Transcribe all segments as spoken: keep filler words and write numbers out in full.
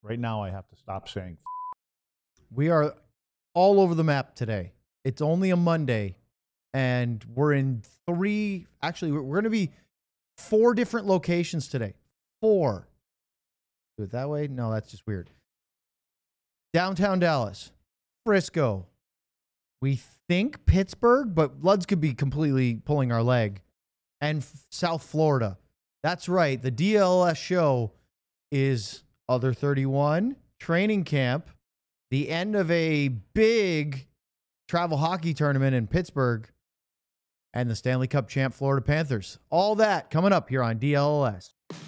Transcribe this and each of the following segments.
Right now, I have to stop saying. We are all over the map today. It's only a Monday, and we're in three. Actually, we're, we're going to be four different locations today. Four. Do it that way? No, that's just weird. Downtown Dallas, Frisco. We think Pittsburgh, but Luds could be completely pulling our leg. And f- South Florida. That's right. The D L S show is Other thirty-one, training camp, the end of a big travel hockey tournament in Pittsburgh, and the Stanley Cup champ Florida Panthers. All that coming up here on D L S.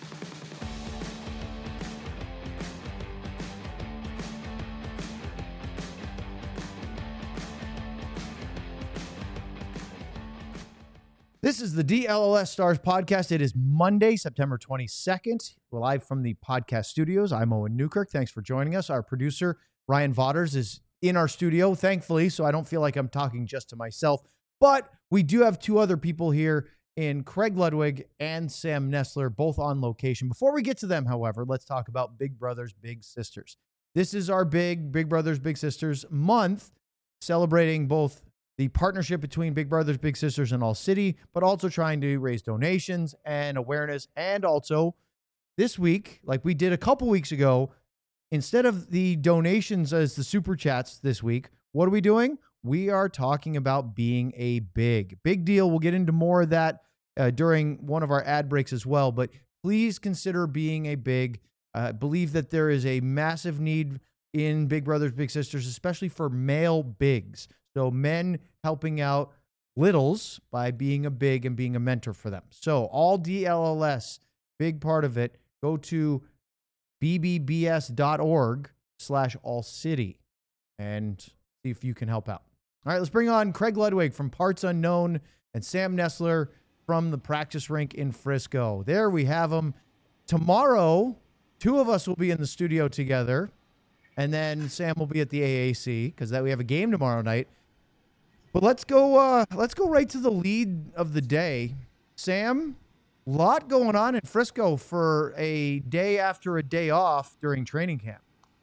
This is the D L L S Stars podcast. It is Monday, September twenty-second. We're live from the podcast studios. I'm Owen Newkirk. Thanks for joining us. Our producer, Ryan Vaughters, is in our studio, thankfully, so I don't feel like I'm talking just to myself. But we do have two other people here in Craig Ludwig and Sam Nestler, both on location. Before we get to them, however, let's talk about Big Brothers Big Sisters. This is our big Big Brothers Big Sisters month, celebrating both the partnership between Big Brothers Big Sisters and All City, but also trying to raise donations and awareness. And also this week, like we did a couple weeks ago, instead of the donations as the super chats this week, what are we doing? We are talking about being a big, big deal. We'll get into more of that uh, during one of our ad breaks as well, but please consider being a big. I uh, believe that there is a massive need in Big Brothers Big Sisters, especially for male bigs. So men helping out littles by being a big and being a mentor for them. So all D L L S, big part of it. Go to bbbs.org slash all city and see if you can help out. All right, let's bring on Craig Ludwig from Parts Unknown and Sam Nestler from the practice rink in Frisco. There we have them. Tomorrow, two of us will be in the studio together, and then Sam will be at the A A C because that we have a game tomorrow night. But let's go. Uh, let's go right to the lead of the day. Sam, a lot going on in Frisco for a day after a day off during training camp.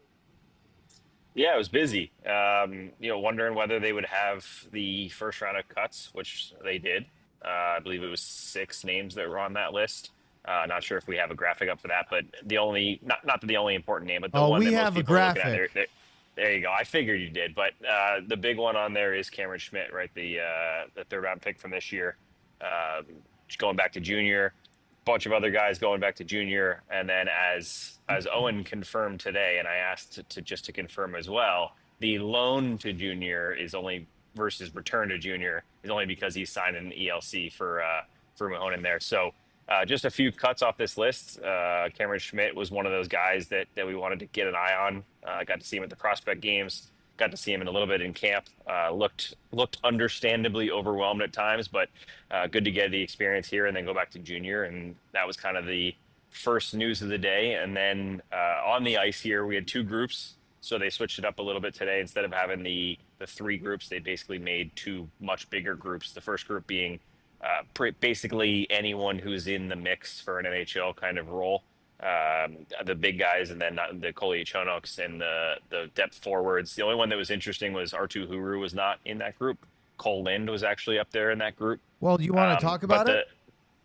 Yeah, it was busy. Um, you know, wondering whether they would have the first round of cuts, which they did. Uh, I believe it was six names that were on that list. Uh, not sure if we have a graphic up for that, but the only not not the only important name, but the oh, one we that most have a people are looking at. graphic. There, there, there you go. I figured you did, but uh, the big one on there is Cameron Schmidt, right? The uh, the third round pick from this year, um, going back to junior. Bunch of other guys going back to junior, and then as as Owen confirmed today, and I asked to, to just to confirm as well, the loan to junior is only versus return to junior is only because he's signed an E L C for uh, for Mahone in there. So uh, just a few cuts off this list. Uh, Cameron Schmidt was one of those guys that that we wanted to get an eye on. I uh, got to see him at the prospect games. Got to see him in a little bit in camp. Uh, looked looked understandably overwhelmed at times, but uh, good to get the experience here and then go back to junior. And that was kind of the first news of the day. And then uh, on the ice here, we had two groups. So they switched it up a little bit today. Instead of having the, the three groups, they basically made two much bigger groups. The first group being uh, pre- basically anyone who's in the mix for an N H L kind of role. Um, the big guys, and then the Koliachonoks and the the depth forwards. The only one that was interesting was Artu Huru was not in that group. Cole Lind was actually up there in that group. Well, do you want to um, talk about the, it?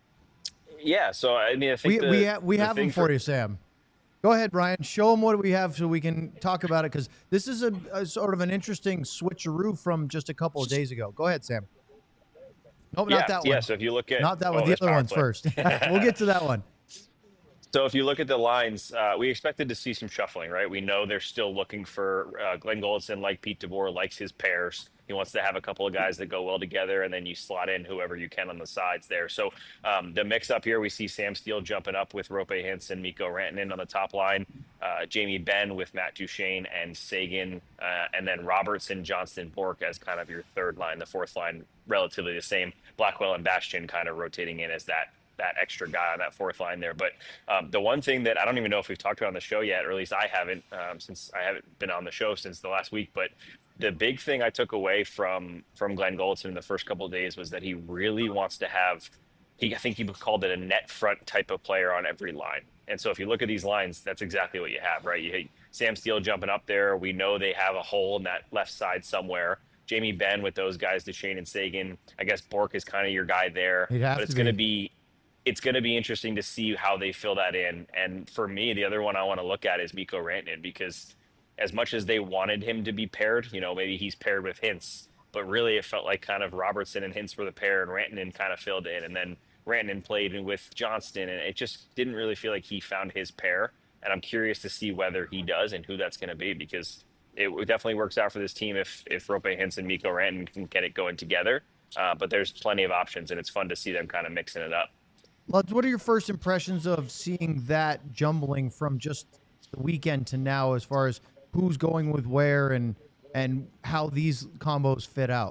Yeah. So I mean, I think we the, we, ha- we the have them for, for you, Sam. Go ahead, Brian. Show them what we have so we can talk about it, because this is a, a sort of an interesting switcheroo from just a couple of days ago. Go ahead, Sam. Nope, yeah, not that one. Yeah. So if you look at not that oh, one, the other ones play. first. We'll get to that one. So if you look at the lines, uh, we expected to see some shuffling, right? We know they're still looking for uh, Glenn Goldson, like Pete DeBoer, likes his pairs. He wants to have a couple of guys that go well together, and then you slot in whoever you can on the sides there. So um, the mix up here, we see Sam Steele jumping up with Rope Hansen, Mikko Rantanen on the top line, uh, Jamie Benn with Matt Duchene and Sagan, uh, and then Robertson, Johnston, Bork as kind of your third line. The fourth line, relatively the same. Blackwell and Bastian kind of rotating in as that that extra guy on that fourth line there. But um, the one thing that I don't even know if we've talked about on the show yet, or at least I haven't, um, since I haven't been on the show since the last week, but the big thing I took away from, from Glenn Goldson in the first couple of days was that he really wants to have he, I think he called it a net front type of player on every line. And so if you look at these lines, that's exactly what you have, right? You hit Sam Steele jumping up there. We know they have a hole in that left side somewhere. Jamie Benn with those guys, Duchesne and Sagan. I guess Bork is kind of your guy there. He'd have but it's to going to be. be it's going to be interesting to see how they fill that in. And for me, the other one I want to look at is Mikko Rantanen, because as much as they wanted him to be paired, you know, maybe he's paired with Hintz, but really it felt like kind of Robertson and Hintz were the pair, and Rantanen kind of filled in. And then Rantanen played with Johnston, and it just didn't really feel like he found his pair. And I'm curious to see whether he does and who that's going to be, because it definitely works out for this team if if Roope Hintz and Mikko Rantanen can get it going together. Uh, but there's plenty of options, and it's fun to see them kind of mixing it up. Luds, what are your first impressions of seeing that jumbling from just the weekend to now, as far as who's going with where and and how these combos fit out?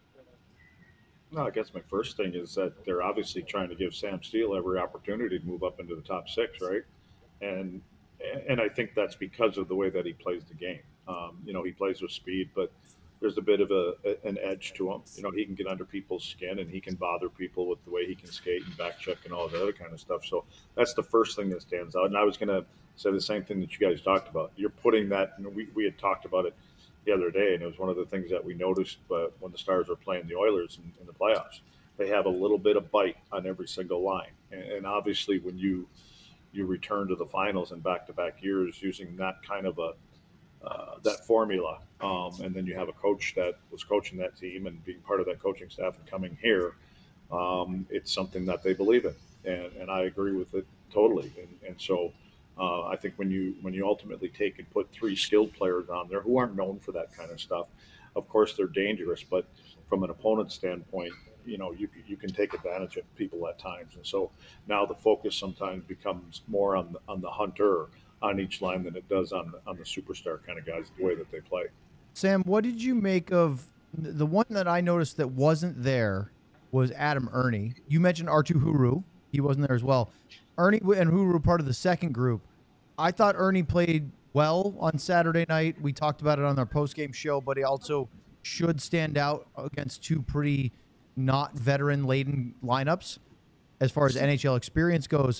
No, I guess my first thing is that they're obviously trying to give Sam Steele every opportunity to move up into the top six, right? And and I think that's because of the way that he plays the game. Um, you know, he plays with speed, but there's a bit of a, a an edge to him. You know, he can get under people's skin, and he can bother people with the way he can skate and back check and all that other kind of stuff. So that's the first thing that stands out. And I was going to say the same thing that you guys talked about. You're putting that, you know, we, we had talked about it the other day, and it was one of the things that we noticed uh, when the Stars were playing the Oilers in, in the playoffs. They have a little bit of bite on every single line. And, and obviously when you you return to the finals in back-to-back years using that kind of a uh, that formula, um, and then you have a coach that was coaching that team and being part of that coaching staff and coming here, um, it's something that they believe in, and, and I agree with it totally. And, and so uh, I think when you when you ultimately take and put three skilled players on there who aren't known for that kind of stuff, of course they're dangerous, but from an opponent standpoint, you know, you you can take advantage of people at times. And so now the focus sometimes becomes more on the, on the hunter on each line than it does on the, on the superstar kind of guys, the way that they play. Sam, what did you make of the one that I noticed that wasn't there was Adam Ernie? You mentioned Artu Huru. He wasn't there as well. Ernie and Huru were part of the second group. I thought Ernie played well on Saturday night. We talked about it on our postgame show, but he also should stand out against two pretty not veteran-laden lineups as far as N H L experience goes.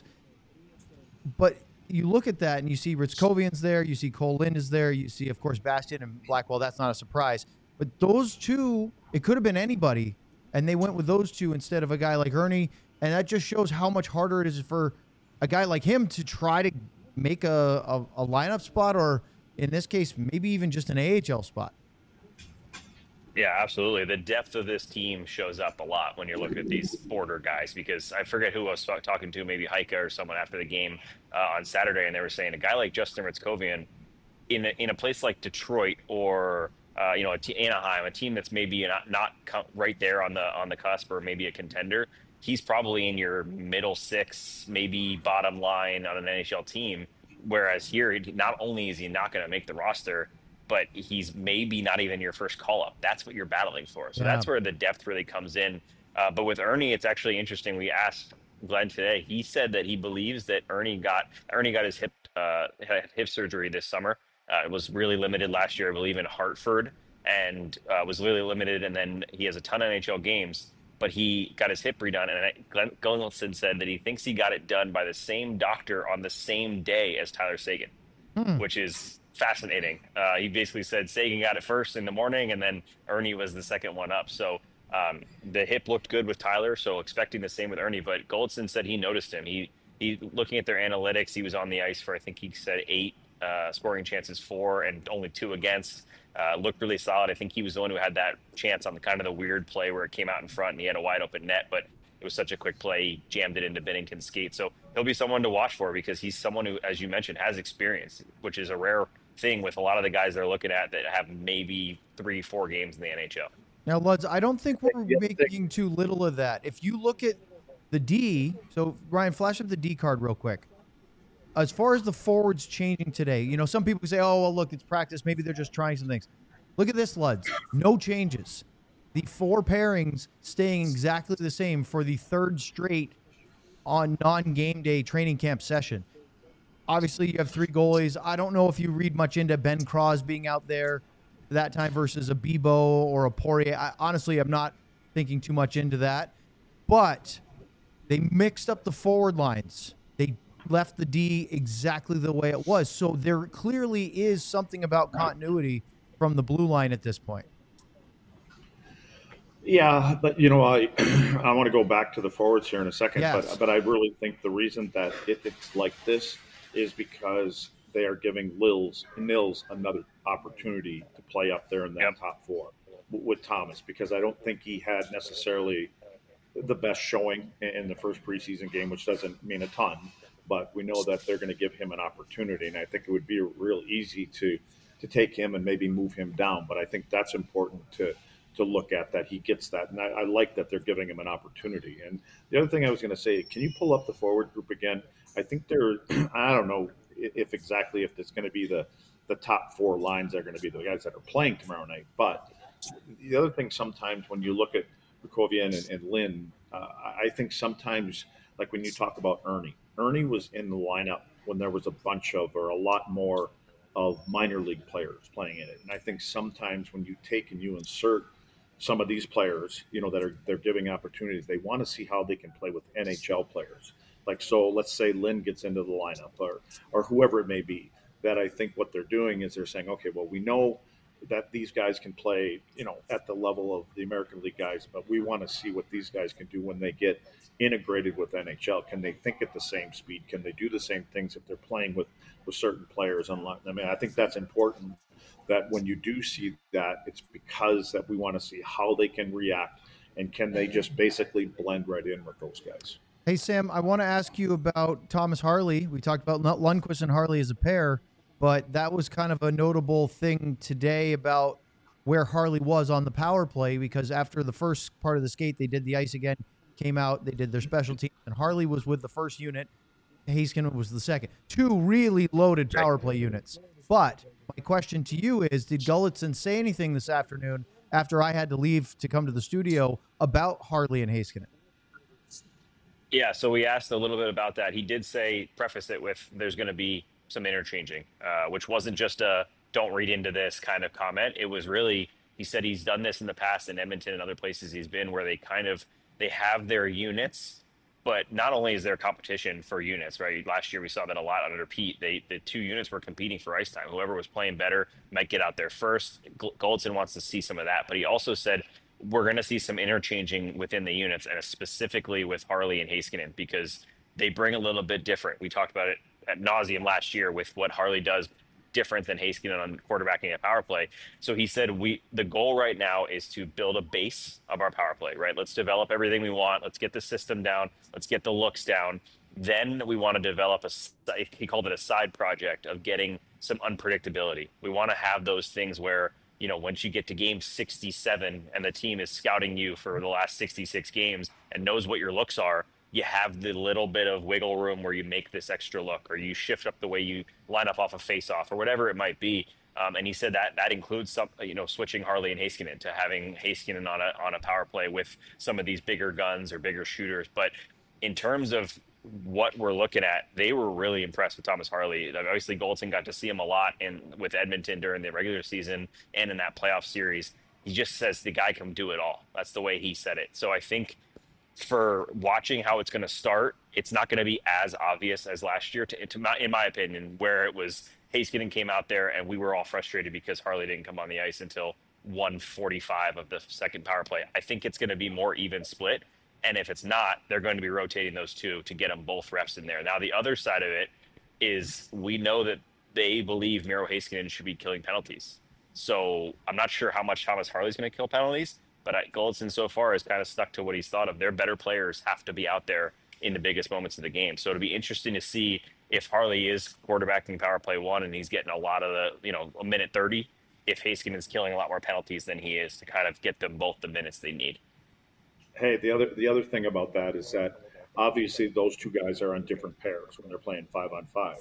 But you look at that and you see Ritzkovian's there, you see Cole Lind is there, you see, of course, Bastian and Blackwell. That's not a surprise. But those two, it could have been anybody, and they went with those two instead of a guy like Ernie, and that just shows how much harder it is for a guy like him to try to make a, a, a lineup spot, or in this case, maybe even just an A H L spot. Yeah, absolutely. The depth of this team shows up a lot when you're looking at these border guys, because I forget who I was talking to, maybe Heike or someone after the game uh, on Saturday, and they were saying a guy like Justin Ritzkovian in a, in a place like Detroit or uh, you know a t- Anaheim, a team that's maybe not, not co- right there on the on the cusp or maybe a contender, he's probably in your middle six, maybe bottom line on an N H L team. Whereas here, not only is he not going to make the roster, but he's maybe not even your first call-up. That's what you're battling for. So yeah. That's where the depth really comes in. Uh, but with Ernie, it's actually interesting. We asked Glenn today. He said that he believes that Ernie got Ernie got his hip uh, hip surgery this summer. Uh, it was really limited last year, I believe, in Hartford, and uh, was really limited. And then he has a ton of N H L games, but he got his hip redone. And Glenn Gullinson said that he thinks he got it done by the same doctor on the same day as Tyler Seguin, hmm. which is fascinating. Uh, he basically said Seguin got it first in the morning, and then Ernie was the second one up. So um, the hip looked good with Tyler, so expecting the same with Ernie. But Goldson said he noticed him. He he looking at their analytics, he was on the ice for, I think he said eight uh, scoring chances for, and only two against. Uh, looked really solid. I think he was the one who had that chance on the kind of the weird play where it came out in front and he had a wide open net, but it was such a quick play, he jammed it into Binnington's skate. So he'll be someone to watch for, because he's someone who, as you mentioned, has experience, which is a rare thing with a lot of the guys they're looking at that have maybe three, four games in the N H L. Now, Luds, I don't think we're making too little of that. If you look at the D, so Ryan, flash up the D card real quick. As far as the forwards changing today, you know, some people say, oh, well, look, it's practice. Maybe they're just trying some things. Look at this, Luds. No changes. The four pairings staying exactly the same for the third straight on non-game day training camp session. Obviously, you have three goalies. I don't know if you read much into Ben Cross being out there that time versus a Bibeau or a Poirier. I, honestly, I'm not thinking too much into that. But They mixed up the forward lines. They left the D exactly the way it was. So there clearly is something about continuity from the blue line at this point. Yeah, but you know, I I want to go back to the forwards here in a second, Yes. but but I really think the reason that it, it's like this is because they are giving Lils Nils another opportunity to play up there in that Yep. top four w- with Thomas, because I don't think he had necessarily the best showing in in the first preseason game, which doesn't mean a ton, but we know that they're going to give him an opportunity, and I think it would be real easy to to take him and maybe move him down. But I think that's important to to look at, that he gets that, and I, I like that they're giving him an opportunity. And the other thing I was going to say, can you pull up the forward group again? I think they're I don't know if exactly if it's going to be the the top four lines are going to be the guys that are playing tomorrow night, but the other thing sometimes when you look at Bukovian and, and Lynn, uh, I think sometimes, like when you talk about Ernie, Ernie was in the lineup when there was a bunch of, or a lot more of minor league players playing in it. And I think sometimes when you take and you insert some of these players, you know, that are they're giving opportunities, they want to see how they can play with N H L players. Like, so let's say Lynn gets into the lineup, or or whoever it may be. That I think what they're doing is they're saying, okay, well, we know that these guys can play, you know, at the level of the American League guys, but we want to see what these guys can do when they get integrated with N H L. Can they think at the same speed? Can they do the same things if they're playing with with certain players? Unlike, I mean, I think that's important. That when you do see that, it's because that we want to see how they can react, and can they just basically blend right in with those guys. Hey, Sam, I want to ask you about Thomas Harley. We talked about Lundqvist and Harley as a pair, but that was kind of a notable thing today about where Harley was on the power play, because after the first part of the skate, they did the ice again, came out, they did their special teams, and Harley was with the first unit. Heiskanen was the second. Two really loaded power play units. But my question to you is, did Gulutzan say anything this afternoon after I had to leave to come to the studio about Harley and Heiskanen? Yeah, so we asked a little bit about that. He did say, preface it with, there's going to be some interchanging, uh, which wasn't just a don't read into this kind of comment. It was really, he said he's done this in the past in Edmonton and other places he's been, where they kind of, they have their units, but not only is there competition for units, right? Last year we saw that a lot under Pete. They, the two units were competing for ice time. Whoever was playing better might get out there first. Gulutzan wants to see some of that, but he also said, we're going to see some interchanging within the units, and specifically with Harley and Heiskanen, because they bring a little bit different. We talked about it at nauseum last year with what Harley does different than Heiskanen on quarterbacking a power play. So he said, we the goal right now is to build a base of our power play, right? Let's develop everything we want. Let's get the system down. Let's get the looks down. Then we want to develop a, he called it a side project of getting some unpredictability. We want to have those things where, you know, once you get to game sixty-seven and the team is scouting you for the last sixty-six games and knows what your looks are, you have the little bit of wiggle room where you make this extra look, or you shift up the way you line up off a face-off, or whatever it might be. Um, and he said that that includes some, you know, switching Harley and Heiskanen to having Heiskanen on a on a power play with some of these bigger guns or bigger shooters. But in terms of what we're looking at, they were really impressed with Thomas Harley. Obviously, Gulutzan got to see him a lot in with Edmonton during the regular season and in that playoff series. He just says the guy can do it all. That's the way he said it. So I think for watching how it's going to start, it's not going to be as obvious as last year, to, to my, in my opinion, where it was Heiskanen came out there and we were all frustrated because Harley didn't come on the ice until one forty-five of the second power play. I think it's going to be more even split. And if it's not, they're going to be rotating those two to get them both reps in there. Now, the other side of it is we know that they believe Miro Heiskanen should be killing penalties. So I'm not sure how much Thomas Harley's going to kill penalties, but Gulutzan so far has kind of stuck to what he's thought of. Their better players have to be out there in the biggest moments of the game. So it'll be interesting to see if Harley is quarterbacking power play one and he's getting a lot of the, you know, a minute thirty, if Heiskanen is killing a lot more penalties than he is, to kind of get them both the minutes they need. Hey, the other the other thing about that is that obviously those two guys are on different pairs when they're playing five on five.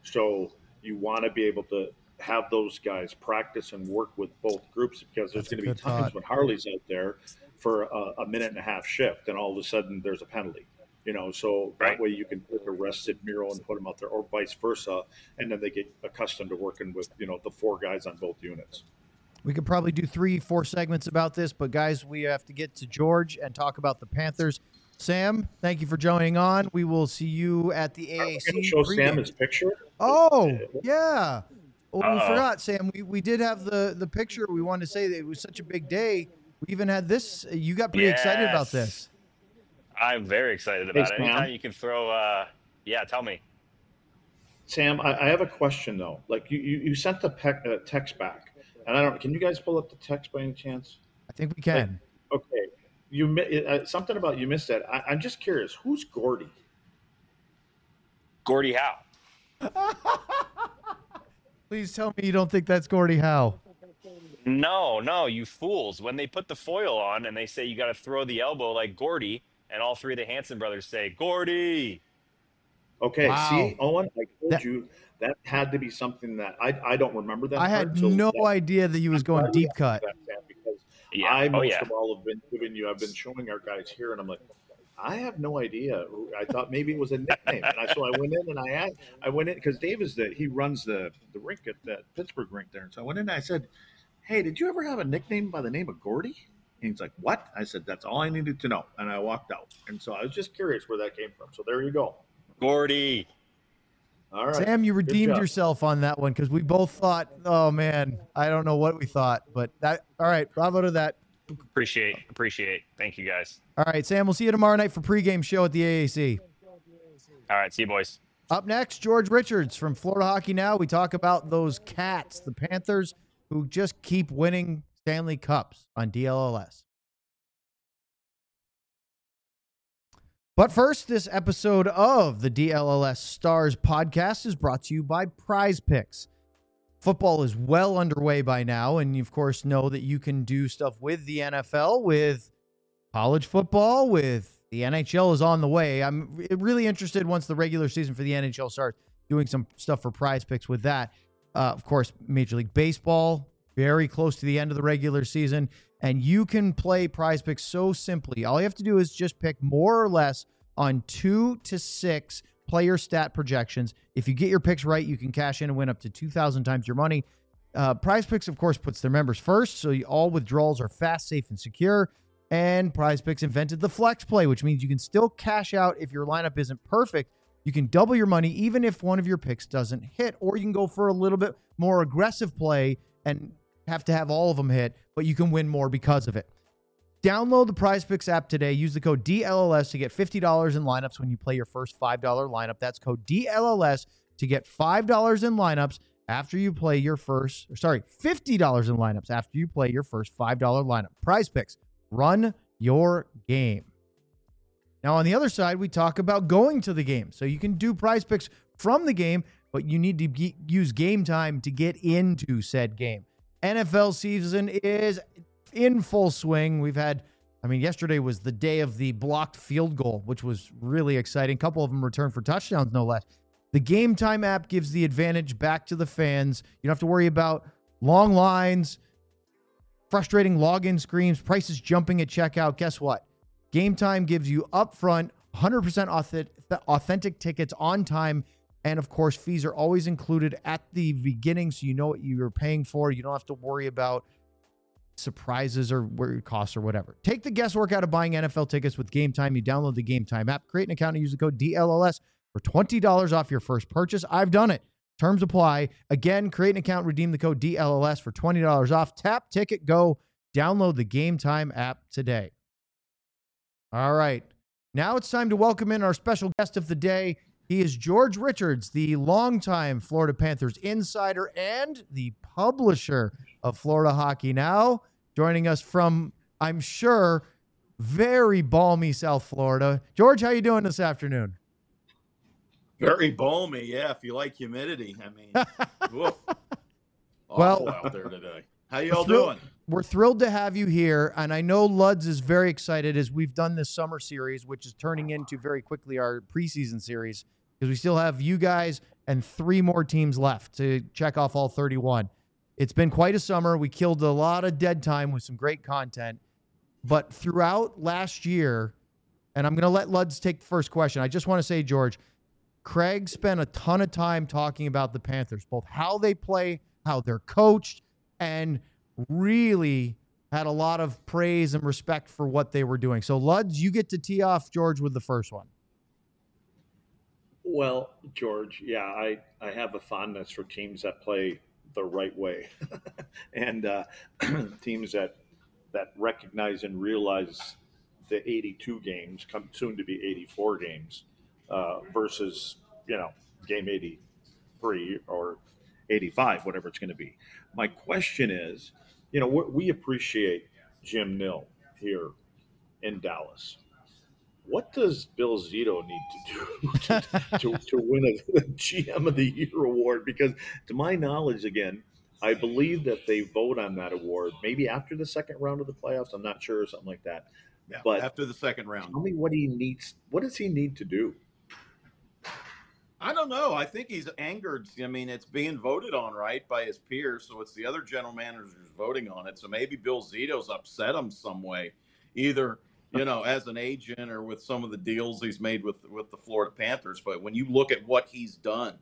So you want to be able to have those guys practice and work with both groups, because there's going to be times thought. when Harley's out there for a, a minute and a half shift, and all of a sudden there's a penalty. You know, so Right. that way you can put a rested Miro and put him out there, or vice versa, and then they get accustomed to working with, you know, the four guys on both units. We could probably do three, four segments about this, but guys, we have to get to George and talk about the Panthers. Sam, thank you for joining on. We will see you at the A A C. Show pregame. Sam his picture. Oh, yeah. Well, we Uh-oh. forgot, Sam. We, we did have the, the picture. We wanted to say that it was such a big day. We even had this. You got pretty excited about Yes. this. I'm very excited about Hey, it. Sam. Anytime you can throw, uh, yeah, tell me. Sam, I, I have a question though. Like you, you, you sent the pe- uh, text back, and I don't. Can you guys pull up the text by any chance? I think we can. Okay, you mi- uh, something about you missed that. I, I'm just curious. Who's Gordy? Gordie Howe. Please tell me you don't think that's Gordie Howe. No, no, you fools. When they put the foil on and they say you got to throw the elbow like Gordy, and all three of the Hanson brothers say, Gordy. Okay, Wow. see, Owen, I told That- you that had to be something that I, I don't remember that. I had part, so no that- idea that he was I'm going glad we deep asked cut. that, Sam, because Yeah. I oh, most yeah. of all have been giving you. I've been showing our guys here, and I'm like, I have no idea. I thought maybe it was a nickname, and I, so I went in and I asked, I went in because Dave is the he runs the the rink at that Pittsburgh rink there, and so I went in and I said, hey, did you ever have a nickname by the name of Gordy? And he's like, what? I said, that's all I needed to know, and I walked out. And so I was just curious where that came from. So there you go. Gordy. All right, Sam, you Good redeemed job. yourself on that one because we both thought, oh, man, I don't know what we thought. But that, all right, bravo to that. Appreciate, appreciate. Thank you guys. All right, Sam, we'll see you tomorrow night for pregame show at the A A C. All right. See you, boys. Up next, George Richards from Florida Hockey Now. We talk about those Cats, the Panthers, who just keep winning Stanley Cups on D L L S. But first, this episode of the D L L S Stars podcast is brought to you by Prize Picks. Football is well underway by now, and you, of course, know that you can do stuff with the N F L, with college football, with the N H L is on the way. I'm really interested once the regular season for the N H L starts doing some stuff for Prize Picks with that. Uh, of course, Major League Baseball, very close to the end of the regular season, and you can play Prize Picks so simply. All you have to do is just pick more or less on two to six player stat projections. If you get your picks right, you can cash in and win up to two thousand times your money. Uh, Prize Picks, of course, puts their members first, so you, all withdrawals are fast, safe, and secure. And Prize Picks invented the flex play, which means you can still cash out if your lineup isn't perfect. You can double your money even if one of your picks doesn't hit, or you can go for a little bit more aggressive play and have to have all of them hit, but you can win more because of it. Download the Prize Picks app today. Use the code D L L S to get fifty dollars in lineups when you play your first five dollar lineup. That's code D L L S to get five dollars in lineups after you play your first, or sorry, fifty dollars in lineups after you play your first five dollar lineup. Prize Picks, run your game. Now, on the other side, we talk about going to the game. So you can do Prize Picks from the game, but you need to ge- use Game Time to get into said game. N F L season is in full swing. We've had, I mean, yesterday was the day of the blocked field goal, which was really exciting. A couple of them returned for touchdowns, no less. The Game Time app gives the advantage back to the fans. You don't have to worry about long lines, frustrating login screens, prices jumping at checkout. Guess what? Game Time gives you upfront one hundred percent authentic tickets on time. And of course, fees are always included at the beginning, so you know what you're paying for. You don't have to worry about surprises or where it costs or whatever. Take the guesswork out of buying N F L tickets with Game Time. You download the Game Time app, create an account, and use the code D L L S for twenty dollars off your first purchase. I've done it. Terms apply. Again, create an account, redeem the code D L L S for twenty dollars off. Tap, ticket, go. Download the Game Time app today. All right. Now it's time to welcome in our special guest of the day. He is George Richards, the longtime Florida Panthers insider and the publisher of Florida Hockey Now, joining us from, I'm sure, very balmy South Florida. George, how you doing this afternoon? Very balmy, yeah, if you like humidity. I mean, woof. Well- Awful out there today. How y'all Thrill- doing? We're thrilled to have you here, and I know Luds is very excited as we've done this summer series, which is turning into very quickly our preseason series, because we still have you guys and three more teams left to check off all thirty-one. It's been quite a summer. We killed a lot of dead time with some great content, but throughout last year, and I'm going to let Luds take the first question. I just want to say, George, Craig spent a ton of time talking about the Panthers, both how they play, how they're coached, and really had a lot of praise and respect for what they were doing. So, Luds, you get to tee off, George, with the first one. Well, George, yeah, I, I have a fondness for teams that play the right way and uh, teams that that recognize and realize the eighty-two games come soon to be eighty-four games uh, versus, you know, game eighty-three or eighty-five, whatever it's going to be. My question is, you know, we appreciate Jim Nill here in Dallas. What does Bill Zito need to do to, to, to win a G M of the Year award? Because to my knowledge, again, I believe that they vote on that award maybe after the second round of the playoffs. I'm not sure, or something like that. Yeah, but after the second round. Tell me what he needs. What does he need to do? I don't know. I think he's angered. I mean, it's being voted on, right, by his peers. So it's the other general managers voting on it. So maybe Bill Zito's upset him some way, either, you know, as an agent or with some of the deals he's made with, with the Florida Panthers. But when you look at what he's done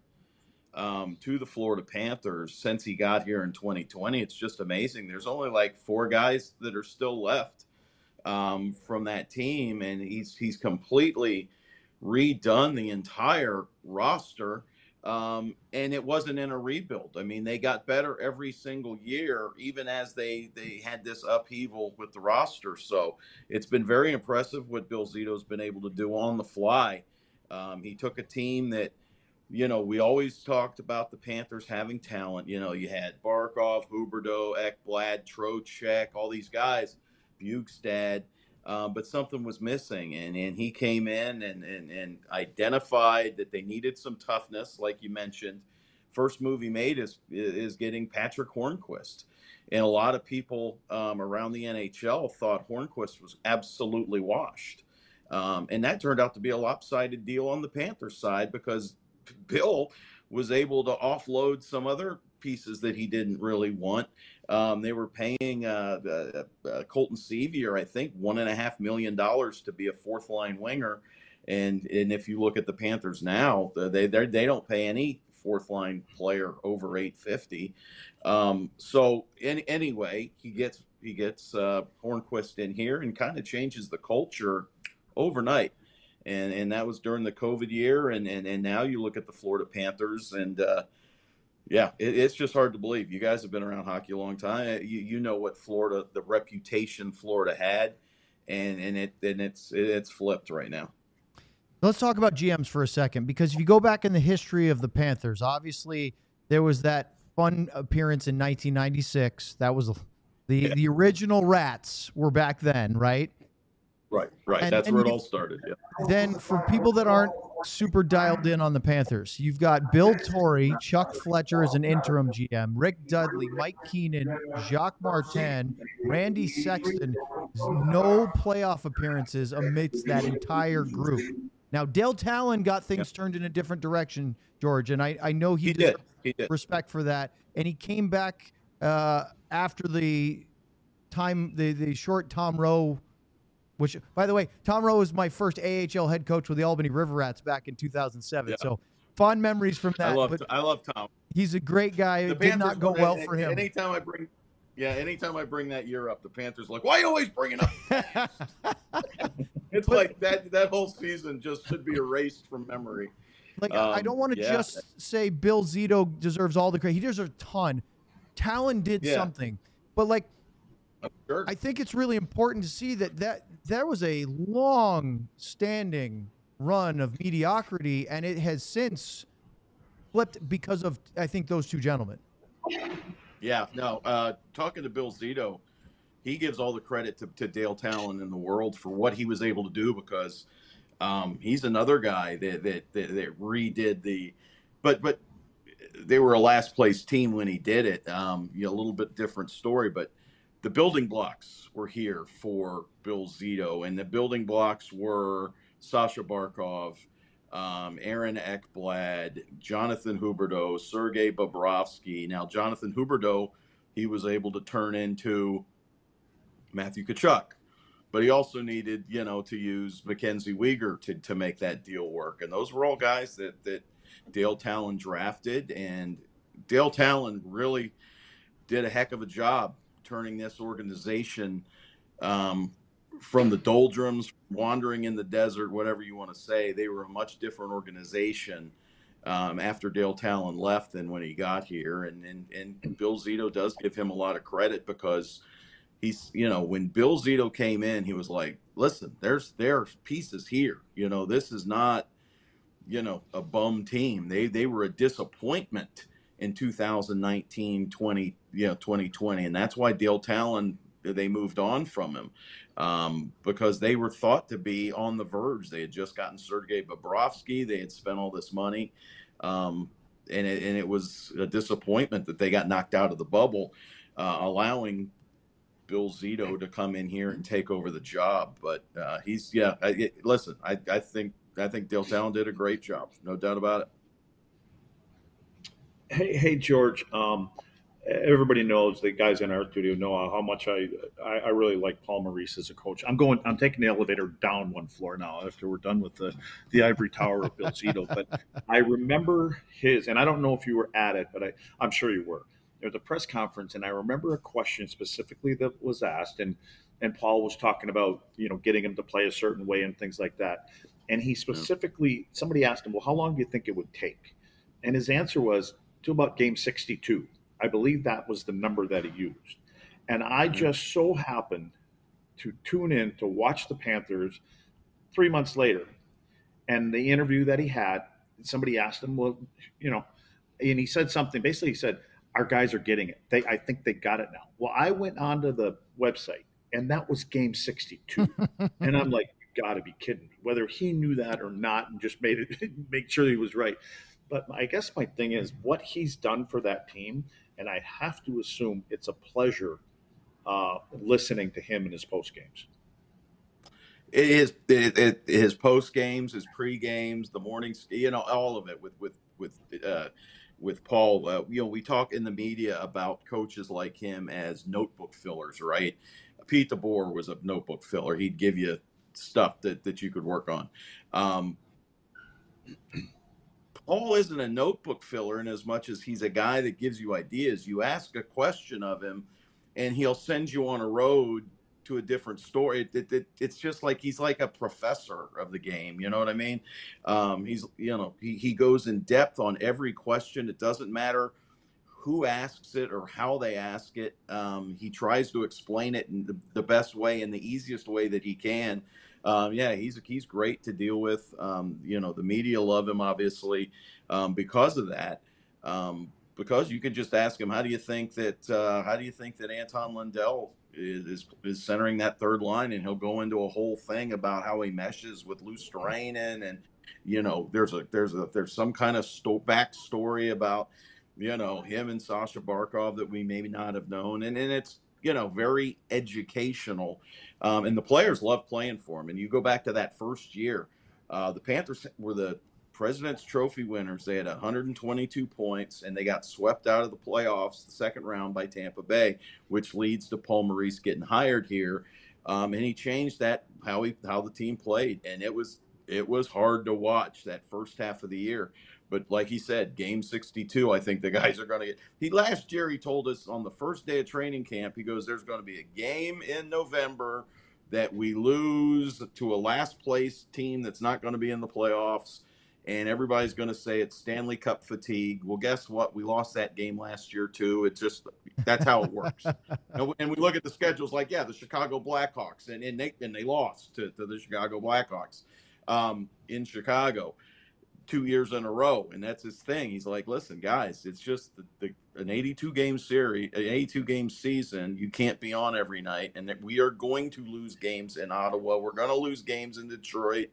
um, to the Florida Panthers since he got here in twenty twenty, it's just amazing. There's only like four guys that are still left um, from that team, and he's he's completely redone the entire roster, um, and it wasn't in a rebuild. I mean, they got better every single year, even as they they had this upheaval with the roster. So it's been very impressive what Bill Zito's been able to do on the fly. Um, he took a team that, you know, we always talked about the Panthers having talent. You know, you had Barkov, Huberdeau, Ekblad, Trocheck, all these guys, Bukestad. Uh, but something was missing, and, and he came in and, and, and identified that they needed some toughness, like you mentioned. First move he made is is getting Patrick Hornquist. And a lot of people um, around the N H L thought Hornquist was absolutely washed. Um, and that turned out to be a lopsided deal on the Panthers side, because Bill was able to offload some other pieces that he didn't really want. Um, they were paying uh, uh, uh, Colton Sevier, I think, one and a half million dollars to be a fourth line winger, and and if you look at the Panthers now, they they they don't pay any fourth line player over eight fifty. Um, so in, anyway, he gets he gets uh, Hornquist in here and kind of changes the culture overnight, and and that was during the COVID year, and and and now you look at the Florida Panthers and. Uh, Yeah, it, it's just hard to believe. You guys have been around hockey a long time. You you know what Florida, the reputation Florida had, and and it and it's it's flipped right now. Let's talk about G Ms for a second, because if you go back in the history of the Panthers, obviously there was that fun appearance in nineteen ninety-six. That was the Yeah. the original Rats were back then, right? Right, right. And- That's and where it you- all started. Yeah. Then for people that aren't super dialed in on the Panthers, you've got Bill Torrey, Chuck Fletcher as an interim G M, Rick Dudley, Mike Keenan, Jacques Martin, Randy Sexton. No playoff appearances amidst that entire group. Now, Dale Talon got things turned in a different direction, George, and I, I know he, He deserves did. He did. respect for that. And he came back uh, after the time, the, the short Tom Rowe, which, by the way, Tom Rowe was my first A H L head coach with the Albany River Rats back in two thousand seven. Yeah. So fond memories from that. I love but I love Tom. he's a great guy. The It did not go well for him. Anytime I bring, yeah, anytime I bring that year up, the Panthers are like, why are you always bringing up? It's But- like that that whole season just should be erased from memory. Like, I Um, don't want to yeah. just say Bill Zito deserves all the credit. He deserves a ton. Talon did Yeah. something. But, like, Sure. I think it's really important to see that, that there was a long-standing run of mediocrity, and it has since flipped because of, I think, those two gentlemen. Yeah, no. Uh, talking to Bill Zito, he gives all the credit to, to Dale Talon in the world for what he was able to do, because um, he's another guy that, that that that redid the, but but they were a last place team when he did it. Um, you know, a little bit different story, but the building blocks were here for Bill Zito, and the building blocks were Sasha Barkov, um, Aaron Ekblad, Jonathan Huberdeau, Sergei Bobrovsky. Now, Jonathan Huberdeau, he was able to turn into Matthew Tkachuk, but he also needed, you know, to use Mackenzie Weegar to, to make that deal work. And those were all guys that, that Dale Talon drafted, and Dale Talon really did a heck of a job turning this organization um, from the doldrums, wandering in the desert, whatever you want to say. They were a much different organization um, after Dale Talon left than when he got here. And, and, and Bill Zito does give him a lot of credit because he's, you know, when Bill Zito came in, he was like, listen, there's, there's pieces here. You know, this is not, you know, a bum team. They, they were a disappointment in two thousand nineteen, twenty, you know, twenty twenty. And that's why Dale Talon, they moved on from him um, because they were thought to be on the verge. They had just gotten Sergei Bobrovsky. They had spent all this money. Um, and, it, and it was a disappointment that they got knocked out of the bubble, uh, allowing Bill Zito to come in here and take over the job. But uh, he's, yeah, I, it, listen, I, I think, I think Dale Talon did a great job. No doubt about it. Hey, hey, George. Um, everybody knows, the guys in our studio know how much I, I I really like Paul Maurice as a coach. I'm going. I'm taking the elevator down one floor now after we're done with the the ivory tower of Bill Zito. But I remember his, and I don't know if you were at it, but I I'm sure you were. There was a press conference, and I remember a question specifically that was asked, and and Paul was talking about, you know, getting him to play a certain way and things like that. And he specifically, somebody asked him, well, how long do you think it would take? And his answer was, to about game sixty-two. I believe that was the number that he used. And I just so happened to tune in to watch the Panthers three months later. And the interview that he had, somebody asked him, well, you know, and he said something, basically he said, our guys are getting it. They, I think they got it now. Well, I went onto the website and that was game sixty-two. And I'm like, you gotta be kidding me. Whether he knew that or not and just made it, make sure he was right. But I guess my thing is what he's done for that team, and I have to assume it's a pleasure uh, listening to him in his post games. It is it, it, his post games, his pre games, the mornings, you know, all of it with with with uh, with Paul. Uh, you know, we talk in the media about coaches like him as notebook fillers, right? Pete DeBoer was a notebook filler. He'd give you stuff that that you could work on. Um, Paul isn't a notebook filler in as much as he's a guy that gives you ideas. You ask a question of him, and he'll send you on a road to a different story. It, it, it, it's just like he's like a professor of the game. You know what I mean? Um, he's, you know, he, he goes in depth on every question. It doesn't matter who asks it or how they ask it. Um, he tries to explain it in the, the best way and the easiest way that he can. Um, yeah, he's he's great to deal with. Um, you know, the media love him, obviously, um, because of that. Um, because you could just ask him, how do you think that uh, how do you think that Anton Lundell is, is is centering that third line, and he'll go into a whole thing about how he meshes with Luostarinen, and you know, there's a there's a there's some kind of sto- backstory about, you know, him and Sasha Barkov that we maybe not have known, and and it's, you know, very educational. Um, and the players love playing for him. And you go back to that first year, uh, the Panthers were the President's Trophy winners. They had one hundred twenty-two points, and they got swept out of the playoffs the second round by Tampa Bay, which leads to Paul Maurice getting hired here. Um, and he changed that, how he how the team played. And it was it was hard to watch that first half of the year. But like he said, game sixty-two, I think the guys are going to get. He last year he told us on the first day of training camp, he goes, "There's going to be a game in November that we lose to a last place team that's not going to be in the playoffs, and everybody's going to say it's Stanley Cup fatigue." Well, guess what? We lost that game last year too. It's just that's how it works. and, and we look at the schedules like, yeah, the Chicago Blackhawks, and and they and they lost to, to the Chicago Blackhawks um, in Chicago two years in a row, and that's his thing. He's like, listen, guys, it's just the, the, an eighty-two game series, an eighty-two game season. You can't be on every night, and that we are going to lose games in Ottawa. We're going to lose games in Detroit.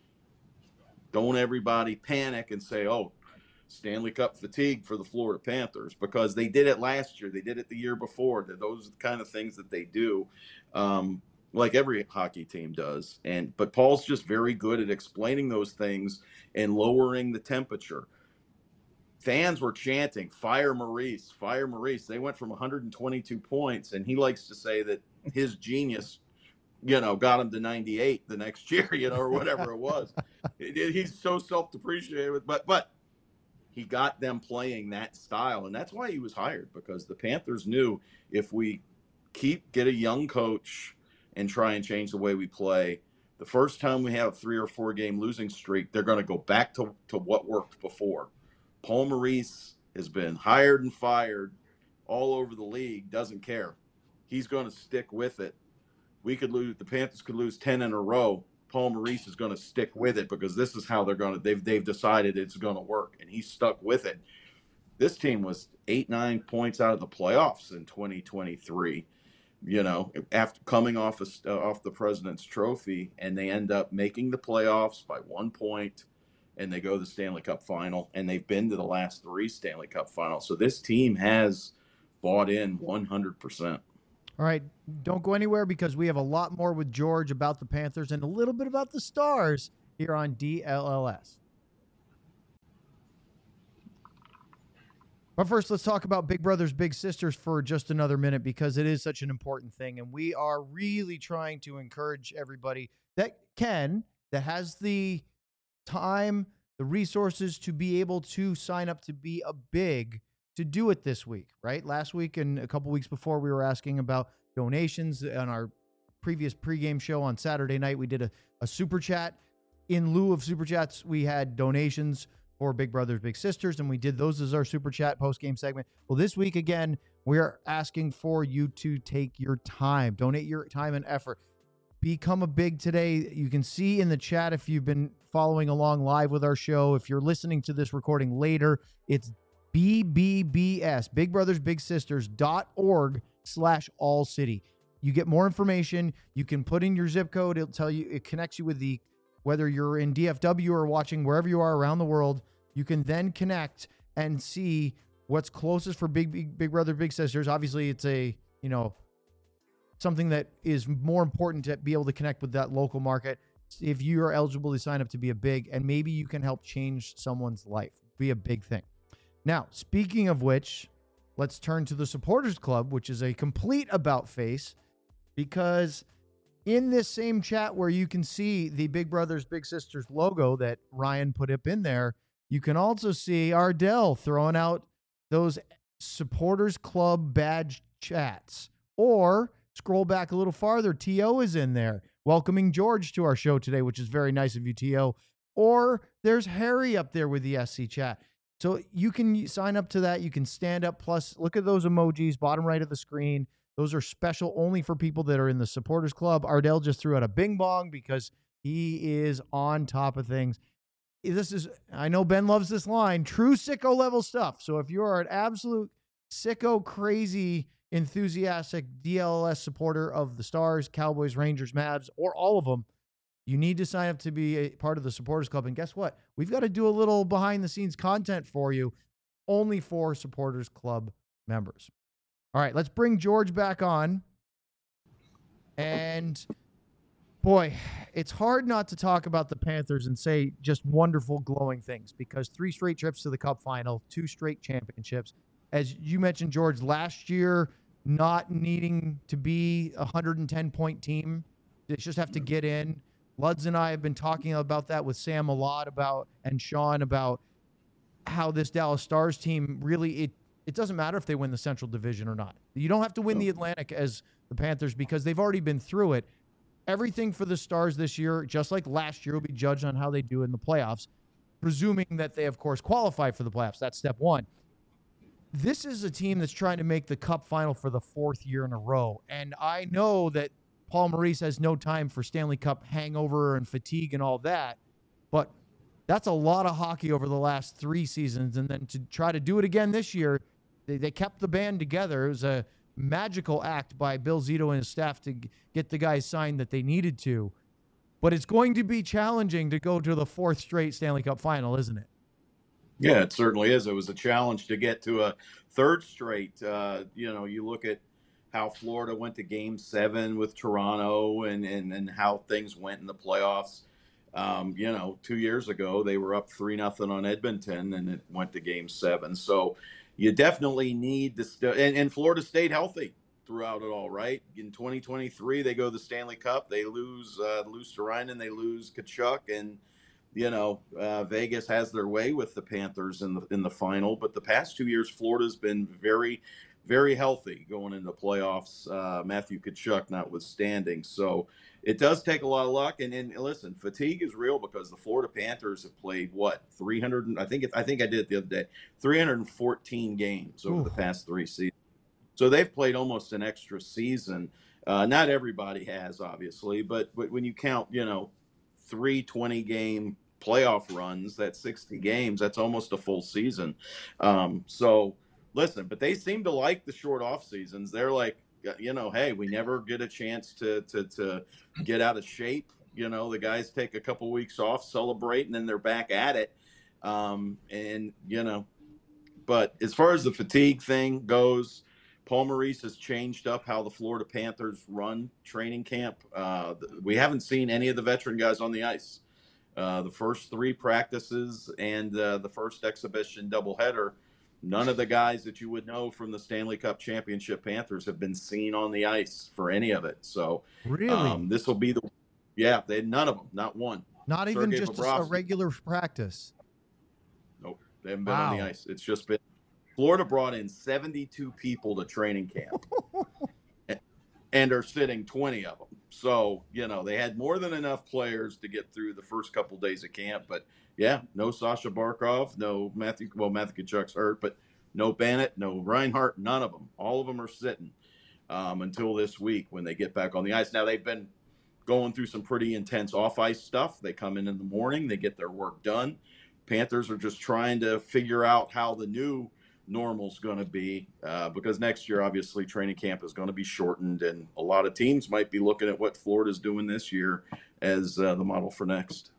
Don't everybody panic and say, oh, Stanley Cup fatigue for the Florida Panthers, because they did it last year. They did it the year before. Those are the kind of things that they do. Um, like every hockey team does. And but Paul's just very good at explaining those things and lowering the temperature. Fans were chanting, "Fire Maurice, fire Maurice." They went from one hundred twenty-two points, and he likes to say that his genius, you know, got him to ninety-eight the next year, you know, or whatever it was. It, it, he's so self-depreciated, but but he got them playing that style, and that's why he was hired, because the Panthers knew if we keep get a young coach and try and change the way we play. The first time we have a three or four game losing streak, they're going to go back to, to what worked before. Paul Maurice has been hired and fired all over the league, doesn't care. He's going to stick with it. We could lose, the Panthers could lose ten in a row. Paul Maurice is going to stick with it because this is how they're going to, they've, they've decided it's going to work, and he's stuck with it. This team was eight, nine points out of the playoffs in twenty twenty-three, you know, after coming off, a, uh, off the President's Trophy, and they end up making the playoffs by one point, and they go to the Stanley Cup final, and they've been to the last three Stanley Cup finals. So this team has bought in one hundred percent. All right, don't go anywhere because we have a lot more with George about the Panthers and a little bit about the Stars here on D L L S. But first, let's talk about Big Brothers Big Sisters for just another minute because it is such an important thing. And we are really trying to encourage everybody that can, that has the time, the resources to be able to sign up to be a big, to do it this week, right? Last week and a couple weeks before, we were asking about donations on our previous pregame show on Saturday night. We did a, a super chat. In lieu of super chats, we had donations for Big Brothers Big Sisters, and we did those as our super chat post-game segment. Well, this week, again, we are asking for you to take your time, donate your time and effort. Become a big today. You can see in the chat if you've been following along live with our show. If you're listening to this recording later, it's B B B S, Big Brothers Big Sisters dot org slash all city. You get more information. You can put in your zip code. It'll tell you, it connects you with the, whether you're in D F W or watching wherever you are around the world, you can then connect and see what's closest for Big, Big, Big Brother Big Sisters. Obviously, it's a, you know, something that is more important to be able to connect with that local market. If you are eligible to sign up to be a big, and maybe you can help change someone's life, be a big thing. Now, speaking of which, let's turn to the Supporters Club, which is a complete about face, because in this same chat where you can see the Big Brothers Big Sisters logo that Ryan put up in there, you can also see Ardell throwing out those Supporters Club badge chats. Or scroll back a little farther, T O is in there welcoming George to our show today, which is very nice of you, T O. Or there's Harry up there with the S C chat. So you can sign up to that. You can stand up. Plus, look at those emojis, bottom right of the screen. Those are special only for people that are in the Supporters Club. Ardell just threw out a bing bong because he is on top of things. This is, I know Ben loves this line, true sicko level stuff. So if you are an absolute sicko, crazy, enthusiastic D L L S supporter of the Stars, Cowboys, Rangers, Mavs, or all of them, you need to sign up to be a part of the Supporters Club. And guess what? We've got to do a little behind-the-scenes content for you, only for Supporters Club members. All right, let's bring George back on. And, boy, it's hard not to talk about the Panthers and say just wonderful, glowing things because three straight trips to the Cup final, two straight championships. As you mentioned, George, last year not needing to be a one hundred ten point team. They just have to get in. Luds and I have been talking about that with Sam a lot about, and Sean, about how this Dallas Stars team really, it, it doesn't matter if they win the Central Division or not. You don't have to win the Atlantic as the Panthers because they've already been through it. Everything for the Stars this year, just like last year, will be judged on how they do in the playoffs, presuming that they, of course, qualify for the playoffs. That's step one. This is a team that's trying to make the Cup final for the fourth year in a row. And I know that Paul Maurice has no time for Stanley Cup hangover and fatigue and all that, but that's a lot of hockey over the last three seasons. And then to try to do it again this year, they, they kept the band together. It was a magical act by Bill Zito and his staff to get the guys signed that they needed to. But it's going to be challenging to go to the fourth straight Stanley Cup final, isn't it? Yeah, it certainly is. It was a challenge to get to a third straight. Uh, you know, you look at how Florida went to game seven with Toronto and, and, and how things went in the playoffs. Um, you know, two years ago, they were up three nothing on Edmonton and it went to game seven. So you definitely need to st- and, and Florida stayed healthy throughout it all, right? In twenty twenty-three, they go to the Stanley Cup. They lose uh, Luostarinen, they lose Tkachuk, and you know, uh, Vegas has their way with the Panthers in the in the final. But the past two years, Florida's been very, very healthy going into the playoffs. Uh, Matthew Tkachuk notwithstanding, so it does take a lot of luck. And, and listen, fatigue is real because the Florida Panthers have played what three hundred. I think I think I did it the other day. three hundred fourteen games over Ooh. the past three seasons. So they've played almost an extra season. Uh, not everybody has, obviously, but, but when you count, you know, three twenty-game playoff runs, that's sixty games. That's almost a full season. Um, so, listen, but they seem to like the short off seasons. They're like, you know, hey, we never get a chance to to to get out of shape. You know, the guys take a couple weeks off, celebrate, and then they're back at it. Um, and, you know, but as far as the fatigue thing goes, Paul Maurice has changed up how the Florida Panthers run training camp. Uh, we haven't seen any of the veteran guys on the ice. Uh, the first three practices and uh, the first exhibition doubleheader, none of the guys that you would know from the Stanley Cup Championship Panthers have been seen on the ice for any of it. So really, um, this will be the yeah. They none of them, not one. Not Sergei even just Bobrovsky. a regular practice. Nope, they haven't been wow. on the ice. It's just been. Florida brought in seventy-two people to training camp and are sitting twenty of them. So, you know, they had more than enough players to get through the first couple of days of camp. But, yeah, no Sasha Barkov, no Matthew – well, Matthew Tkachuk's hurt, but no Bennett, no Reinhart, none of them. All of them are sitting um, until this week when they get back on the ice. Now, they've been going through some pretty intense off-ice stuff. They come in in the morning. They get their work done. Panthers are just trying to figure out how the new – normal's going to be uh, because next year, obviously, training camp is going to be shortened, and a lot of teams might be looking at what Florida's doing this year as uh, the model for next.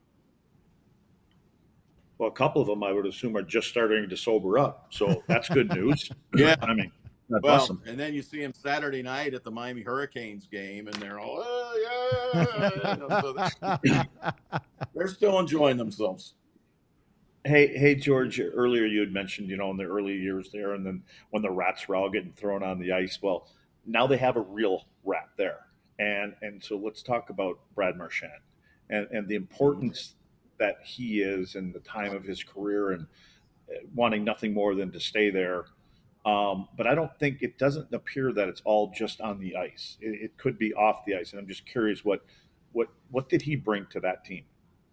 Well, a couple of them, I would assume, are just starting to sober up, so that's good news. Yeah, I mean, that's well, awesome. And then you see them Saturday night at the Miami Hurricanes game, and they're all, oh, yeah, you know, so they're, they're still enjoying themselves. Hey, hey, George, earlier you had mentioned, you know, in the early years there, and then when the rats were all getting thrown on the ice. Well, now they have a real rat there. And and so let's talk about Brad Marchand and, and the importance that he is in the time of his career and wanting nothing more than to stay there. Um, but I don't think it doesn't appear that it's all just on the ice. It, it could be off the ice. And I'm just curious, what what what did he bring to that team?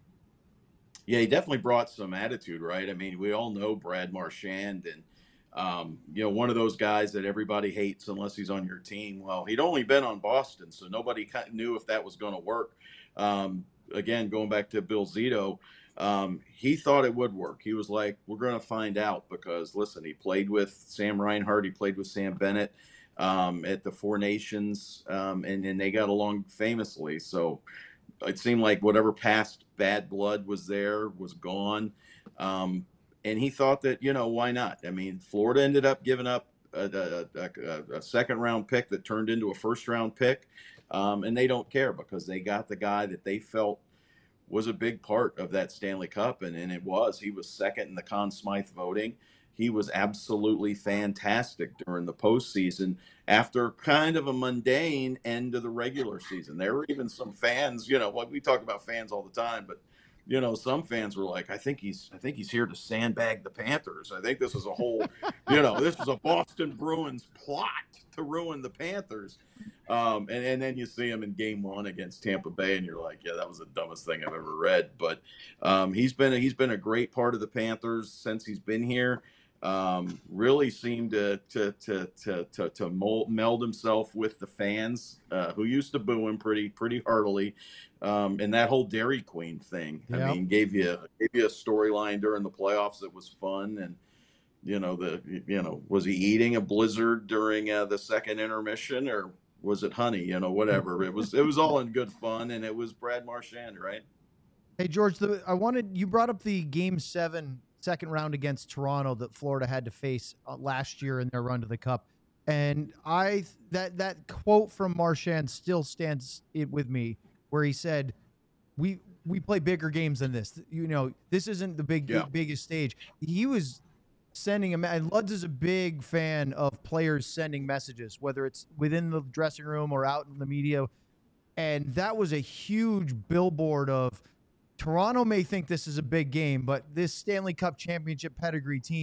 Yeah, he definitely brought some attitude, right? I mean, we all know Brad Marchand, and um, you know, one of those guys that everybody hates unless he's on your team. Well, he'd only been on Boston, so nobody kind of knew if that was going to work. Um, again, going back to Bill Zito, um, he thought it would work. He was like, "We're going to find out," because listen, he played with Sam Reinhart, he played with Sam Bennett um, at the Four Nations, um, and and they got along famously. So it seemed like whatever past bad blood was there was gone. Um, and he thought that, you know, why not? I mean, Florida ended up giving up a, a, a, a second round pick that turned into a first round pick. Um, and they don't care because they got the guy that they felt was a big part of that Stanley Cup. And, and it was, he was second in the Conn Smythe voting. He was absolutely fantastic during the postseason after kind of a mundane end of the regular season. There were even some fans, you know, like we talk about fans all the time, but you know, some fans were like, I think he's, I think he's here to sandbag the Panthers. I think this is a whole, you know, this is a Boston Bruins plot to ruin the Panthers. Um, and, and then you see him in game one against Tampa Bay and you're like, yeah, that was the dumbest thing I've ever read. But um, he's been, a, he's been a great part of the Panthers since he's been here. Um, really seemed to to to to to, to mold, meld himself with the fans uh, who used to boo him pretty pretty heartily, um, and that whole Dairy Queen thing. Yep. I mean, gave you gave you a storyline during the playoffs that was fun, and you know the you know was he eating a blizzard during uh, the second intermission or was it honey? You know, whatever. It was it was all in good fun, and it was Brad Marchand, right? Hey George, the, I wanted you brought up the Game Seven. Second round against Toronto that Florida had to face uh, last year in their run to the Cup. And I that that quote from Marchand still stands it with me where he said, we we play bigger games than this. You know, this isn't the big yeah. biggest stage. He was sending a and Lutz is a big fan of players sending messages, whether it's within the dressing room or out in the media. And that was a huge billboard of Toronto may think this is a big game, but this Stanley Cup championship pedigree team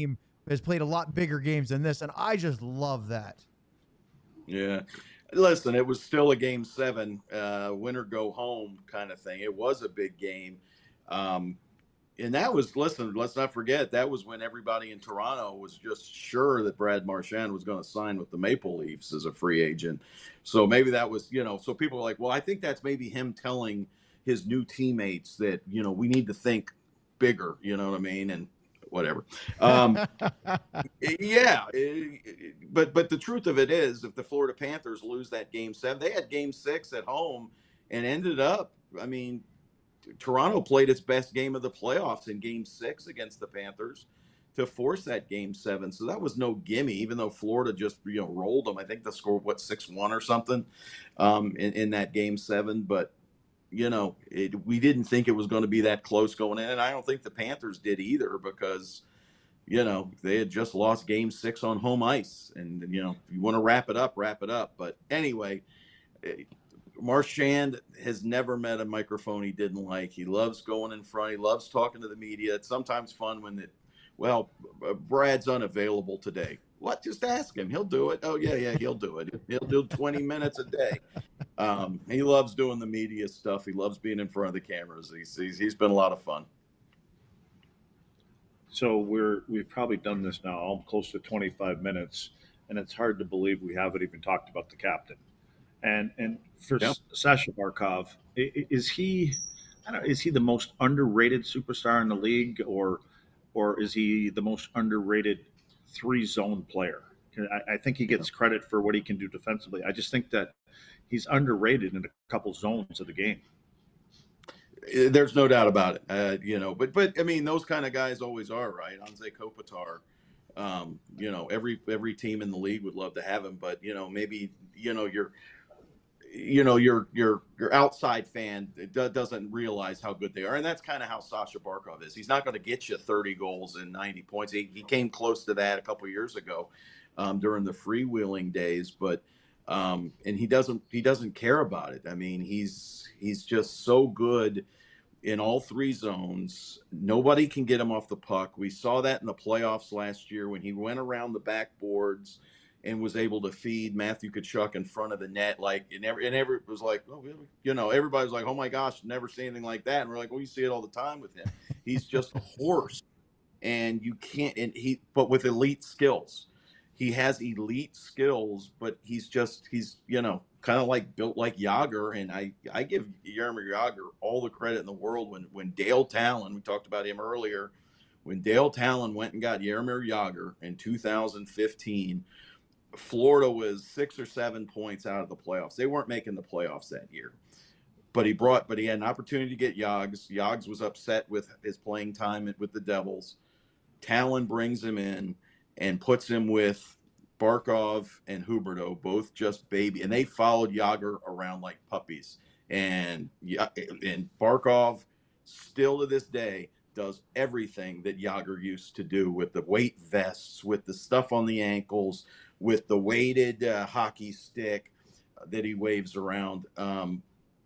has played a lot bigger games than this, and I just love that. Yeah. Listen, it was still a game seven, uh, win or go home kind of thing. It was a big game. Um, and that was, listen, let's not forget, that was when everybody in Toronto was just sure that Brad Marchand was going to sign with the Maple Leafs as a free agent. So maybe that was, you know, so people were like, well, I think that's maybe him telling his new teammates that, you know, we need to think bigger, you know what I mean? And whatever. Um, yeah. It, but, but the truth of it is, if the Florida Panthers lose that game seven, they had game six at home and ended up, I mean, Toronto played its best game of the playoffs in game six against the Panthers to force that game seven. So that was no gimme, even though Florida just, you know, rolled them. I think the score, what, six one or something um, in, in that game seven. But, you know, it, we didn't think it was going to be that close going in. And I don't think the Panthers did either because, you know, they had just lost game six on home ice. And, you know, if you want to wrap it up, wrap it up. But anyway, it, Marchand has never met a microphone he didn't like. He loves going in front. He loves talking to the media. It's sometimes fun when it, well, Brad's unavailable today. What? Just ask him. He'll do it. Oh, yeah, yeah, he'll do it. He'll do twenty minutes a day. Um, he loves doing the media stuff. He loves being in front of the cameras. He's, he's, he's been a lot of fun. So we're, we've probably done this now close to twenty-five minutes, and it's hard to believe we haven't even talked about the captain. And and for Yep. Sasha Barkov, is he, I don't know, is he the most underrated superstar in the league, or or is he the most underrated three zone player? I, I think he gets credit for what he can do defensively. I just think that he's underrated in a couple zones of the game. There's no doubt about it, uh, you know. But but I mean, those kind of guys always are, right? Anze Kopitar. Um, you know, every every team in the league would love to have him, but you know, maybe you know you're. you know, your your your outside fan doesn't realize how good they are. And that's kind of how Sasha Barkov is. He's not going to get you thirty goals and ninety points. He, he came close to that a couple of years ago um, during the freewheeling days, but um, and he doesn't he doesn't care about it. I mean, he's he's just so good in all three zones. Nobody can get him off the puck. We saw that in the playoffs last year when he went around the backboards and was able to feed Matthew Tkachuk in front of the net. Like, and every, and every was like, oh, you know, everybody was like, oh my gosh, never see anything like that. And we're like, well, you see it all the time with him. He's just a horse, and you can't, and he, but with elite skills. He has elite skills, but he's just, he's, you know, kind of like built like Jágr. And I, I give Jaromir Jágr all the credit in the world. When, when Dale Talon, we talked about him earlier, when Dale Talon went and got Jaromir Jágr in two thousand fifteen, Florida was six or seven points out of the playoffs. They weren't making the playoffs that year, but he brought, but he had an opportunity to get Yogs. Yogs was upset with his playing time with the Devils. Talon brings him in and puts him with Barkov and Huberdeau, both just baby, and they followed Jágr around like puppies. And and Barkov still to this day does everything that Jágr used to do with the weight vests, with the stuff on the ankles, with the weighted uh, hockey stick that he waves around. Um,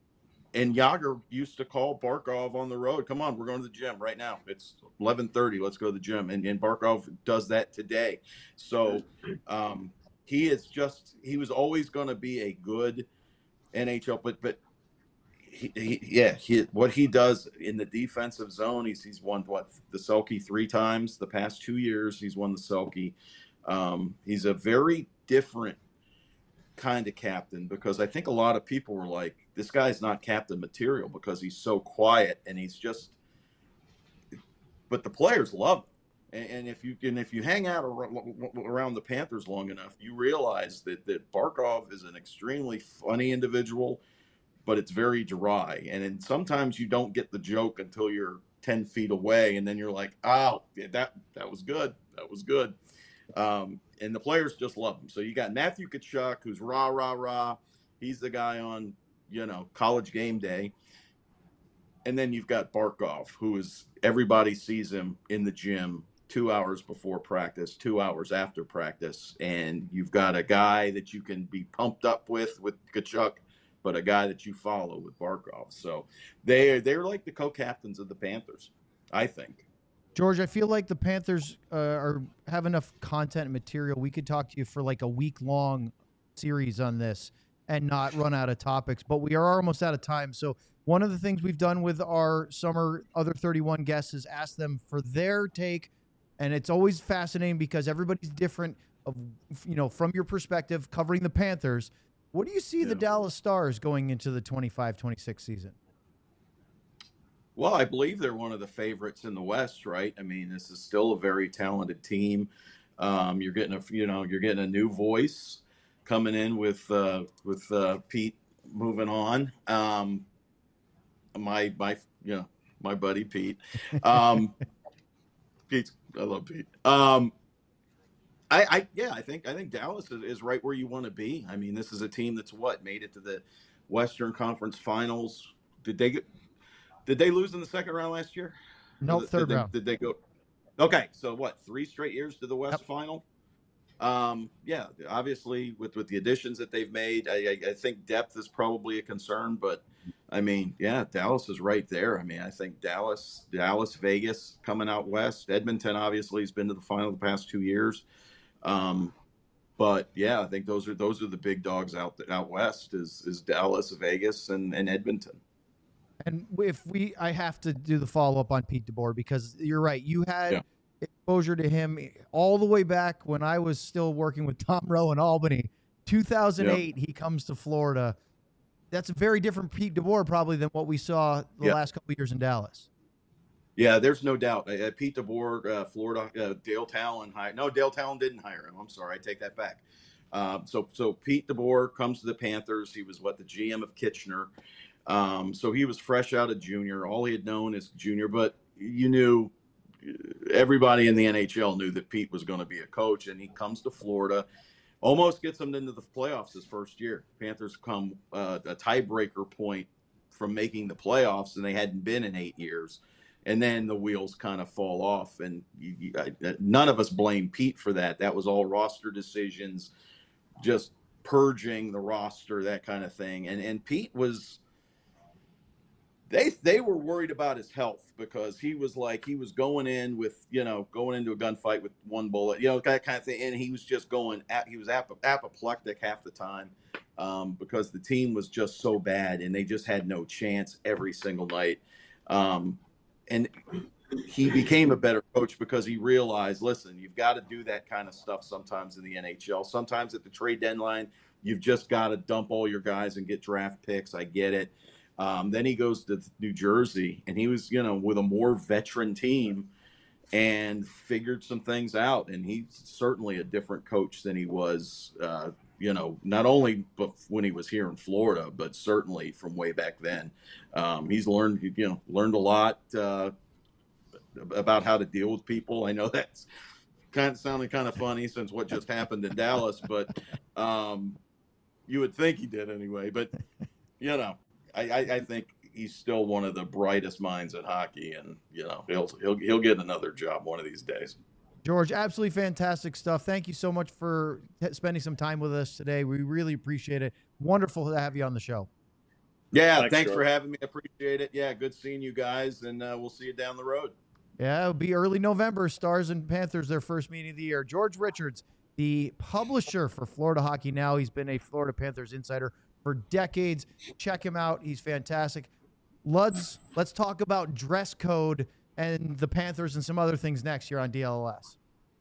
and Jágr used to call Barkov on the road. Come on, we're going to the gym right now. It's eleven thirty. Let's go to the gym. And, and Barkov does that today. So um, he is just, he was always going to be a good N H L, but, but he, he, yeah, he, what he does in the defensive zone, he's, he's won what, the Selke three times the past two years. He's won the Selke. Um, he's a very different kind of captain, because I think a lot of people were like, this guy's not captain material because he's so quiet and he's just, but the players love him. And, and if you and if you hang out around the Panthers long enough, you realize that, that Barkov is an extremely funny individual, but it's very dry. And then sometimes you don't get the joke until you're ten feet away. And then you're like, oh, that, that was good. That was good. Um, and the players just love him. So you got Matthew Tkachuk, who's rah, rah, rah. He's the guy on, you know, College Game Day. And then you've got Barkov, who is, everybody sees him in the gym two hours before practice, two hours after practice. And you've got a guy that you can be pumped up with, with Tkachuk, but a guy that you follow with Barkov. So they, they're like the co-captains of the Panthers, I think. George, I feel like the Panthers uh, are have enough content and material. We could talk to you for like a week long series on this and not run out of topics, but we are almost out of time. So one of the things we've done with our summer other thirty-one guests is ask them for their take. And it's always fascinating because everybody's different of, you know, from your perspective covering the Panthers. What do you see Yeah. the Dallas Stars going into the twenty-five twenty-six season? Well, I believe they're one of the favorites in the West, right? I mean, this is still a very talented team. Um, you're getting a, you know, you're getting a new voice coming in with uh, with uh, Pete moving on. Um, my my, you know, my buddy Pete. Um, Pete, I love Pete. Um, I, I, yeah, I think I think Dallas is, is right where you want to be. I mean, this is a team that's what made it to the Western Conference Finals. Did they get? Did they lose in the second round last year? No, Did- third did they, round. Did they go? Okay, so what? Three straight years to the West Yep. Final. Um, yeah, obviously with with the additions that they've made, I, I, I think depth is probably a concern. But I mean, yeah, Dallas is right there. I mean, I think Dallas, Dallas, Vegas coming out west. Edmonton obviously has been to the final the past two years. Um, but yeah, I think those are those are the big dogs out out west. Is is Dallas, Vegas, and and Edmonton. And if we, I have to do the follow up on Pete DeBoer because you're right. You had Yeah. exposure to him all the way back when I was still working with Tom Rowe in Albany. two thousand eight, he comes to Florida. That's a very different Pete DeBoer probably than what we saw the Yeah. last couple of years in Dallas. Yeah, there's no doubt. Uh, Pete DeBoer, uh, Florida, uh, Dale Talon hired. No, Dale Talon didn't hire him. I'm sorry, I take that back. Um, so, so Pete DeBoer comes to the Panthers. He was what the G M of Kitchener. Um, so he was fresh out of junior. All he had known is junior, but you knew everybody in the N H L knew that Pete was going to be a coach, and he comes to Florida, almost gets them into the playoffs his first year. Panthers come uh, a tiebreaker point from making the playoffs, and they hadn't been in eight years. And then the wheels kind of fall off, and you, you, I, none of us blame Pete for that. That was all roster decisions, just purging the roster, that kind of thing. And and Pete was, they they were worried about his health because he was like he was going in with you know going into a gunfight with one bullet, you know, that kind of thing. And he was just going, he was ap- apoplectic half the time um, because the team was just so bad, and they just had no chance every single night. Um, And he became a better coach because he realized, listen, you've got to do that kind of stuff sometimes in the N H L. Sometimes at the trade deadline, you've just got to dump all your guys and get draft picks. I get it. Um, then he goes to New Jersey, and he was, you know, with a more veteran team and figured some things out. And he's certainly a different coach than he was, uh, you know, not only when he was here in Florida, but certainly from way back then. Um, he's learned, you know, learned a lot uh, about how to deal with people. I know that's kind of sounding kind of funny since what just happened in Dallas, but um, you would think he did anyway. But, you know, I, I, I think he's still one of the brightest minds in hockey, and, you know, he'll, he'll, he'll get another job one of these days. George, absolutely fantastic stuff. Thank you so much for t- spending some time with us today. We really appreciate it. Wonderful to have you on the show. Yeah, Thanks, thanks George. for having me. I appreciate it. Yeah, good seeing you guys, and uh, we'll see you down the road. Yeah, it'll be early November. Stars and Panthers, their first meeting of the year. George Richards, the publisher for Florida Hockey Now. He's been a Florida Panthers insider for decades. Check him out. He's fantastic. Let's, let's talk about dress code and the Panthers and some other things next year on D L L S.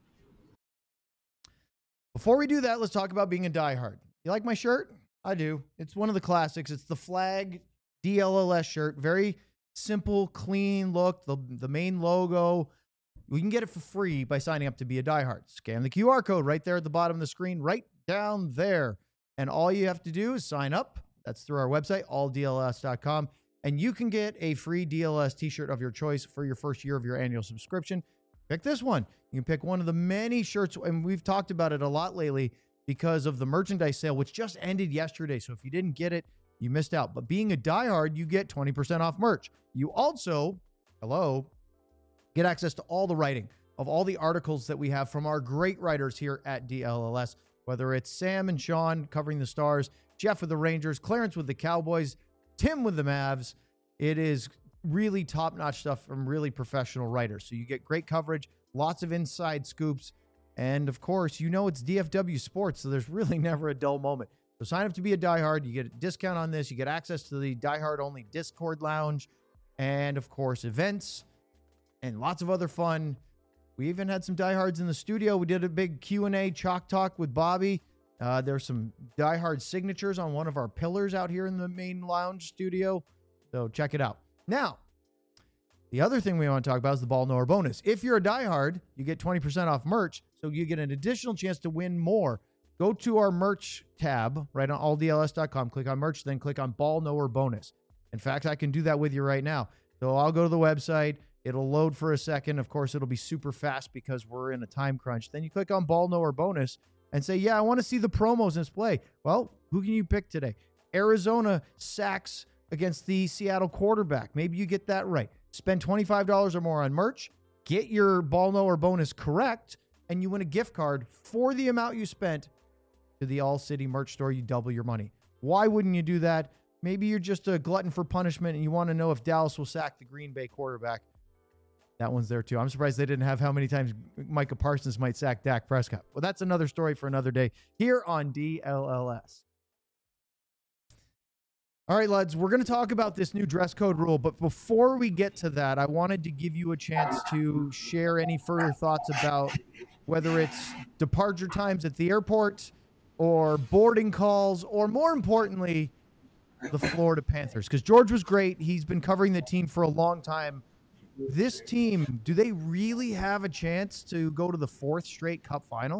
Before we do that, let's talk about being a diehard. You like my shirt? I do. It's one of the classics. It's the flag D L L S shirt. Very simple, clean look. The, the main logo. We can get it for free by signing up to be a diehard. Scan the Q R code right there at the bottom of the screen, right down there. And all you have to do is sign up. That's through our website, all D L S dot com. And you can get a free D L S t-shirt of your choice for your first year of your annual subscription. Pick this one. You can pick one of the many shirts, and we've talked about it a lot lately because of the merchandise sale, which just ended yesterday. So if you didn't get it, you missed out. But being a diehard, you get twenty percent off merch. You also, hello, get access to all the writing of all the articles that we have from our great writers here at D L L S, whether it's Sam and Sean covering the Stars, Jeff with the Rangers, Clarence with the Cowboys, Tim with the Mavs. It is really top-notch stuff from really professional writers. So you get great coverage, lots of inside scoops, and of course, you know it's D F W Sports, so there's really never a dull moment. So sign up to be a diehard. You get a discount on this. You get access to the diehard-only Discord lounge, and of course, events and lots of other fun. We even had some diehards in the studio. We did a big Q and A chalk talk with Bobby. Uh, there's some diehard signatures on one of our pillars out here in the main lounge studio. So check it out. Now, the other thing we want to talk about is the Ball Knower bonus. If you're a diehard, you get twenty percent off merch. So you get an additional chance to win more. Go to our merch tab right on all D L S dot com. Click on merch, then click on Ball Knower bonus. In fact, I can do that with you right now. So I'll go to the website. It'll load for a second. Of course, it'll be super fast because we're in a time crunch. Then you click on Ball Knower bonus and say, yeah, I want to see the promos in display. Well, who can you pick today? Arizona sacks against the Seattle quarterback. Maybe you get that right. Spend twenty-five dollars or more on merch, get your Ball Knower bonus correct, and you win a gift card for the amount you spent to the All City merch store. You double your money. Why wouldn't you do that? Maybe you're just a glutton for punishment and you want to know if Dallas will sack the Green Bay quarterback. That one's there too. I'm surprised they didn't have how many times Micah Parsons might sack Dak Prescott. Well, that's another story for another day here on D L L S. All right, lads, we're going to talk about this new dress code rule. But before we get to that, I wanted to give you a chance to share any further thoughts about whether it's departure times at the airport or boarding calls, or more importantly, the Florida Panthers. Because George was great. He's been covering the team for a long time. This team, do they really have a chance to go to the fourth straight Cup final?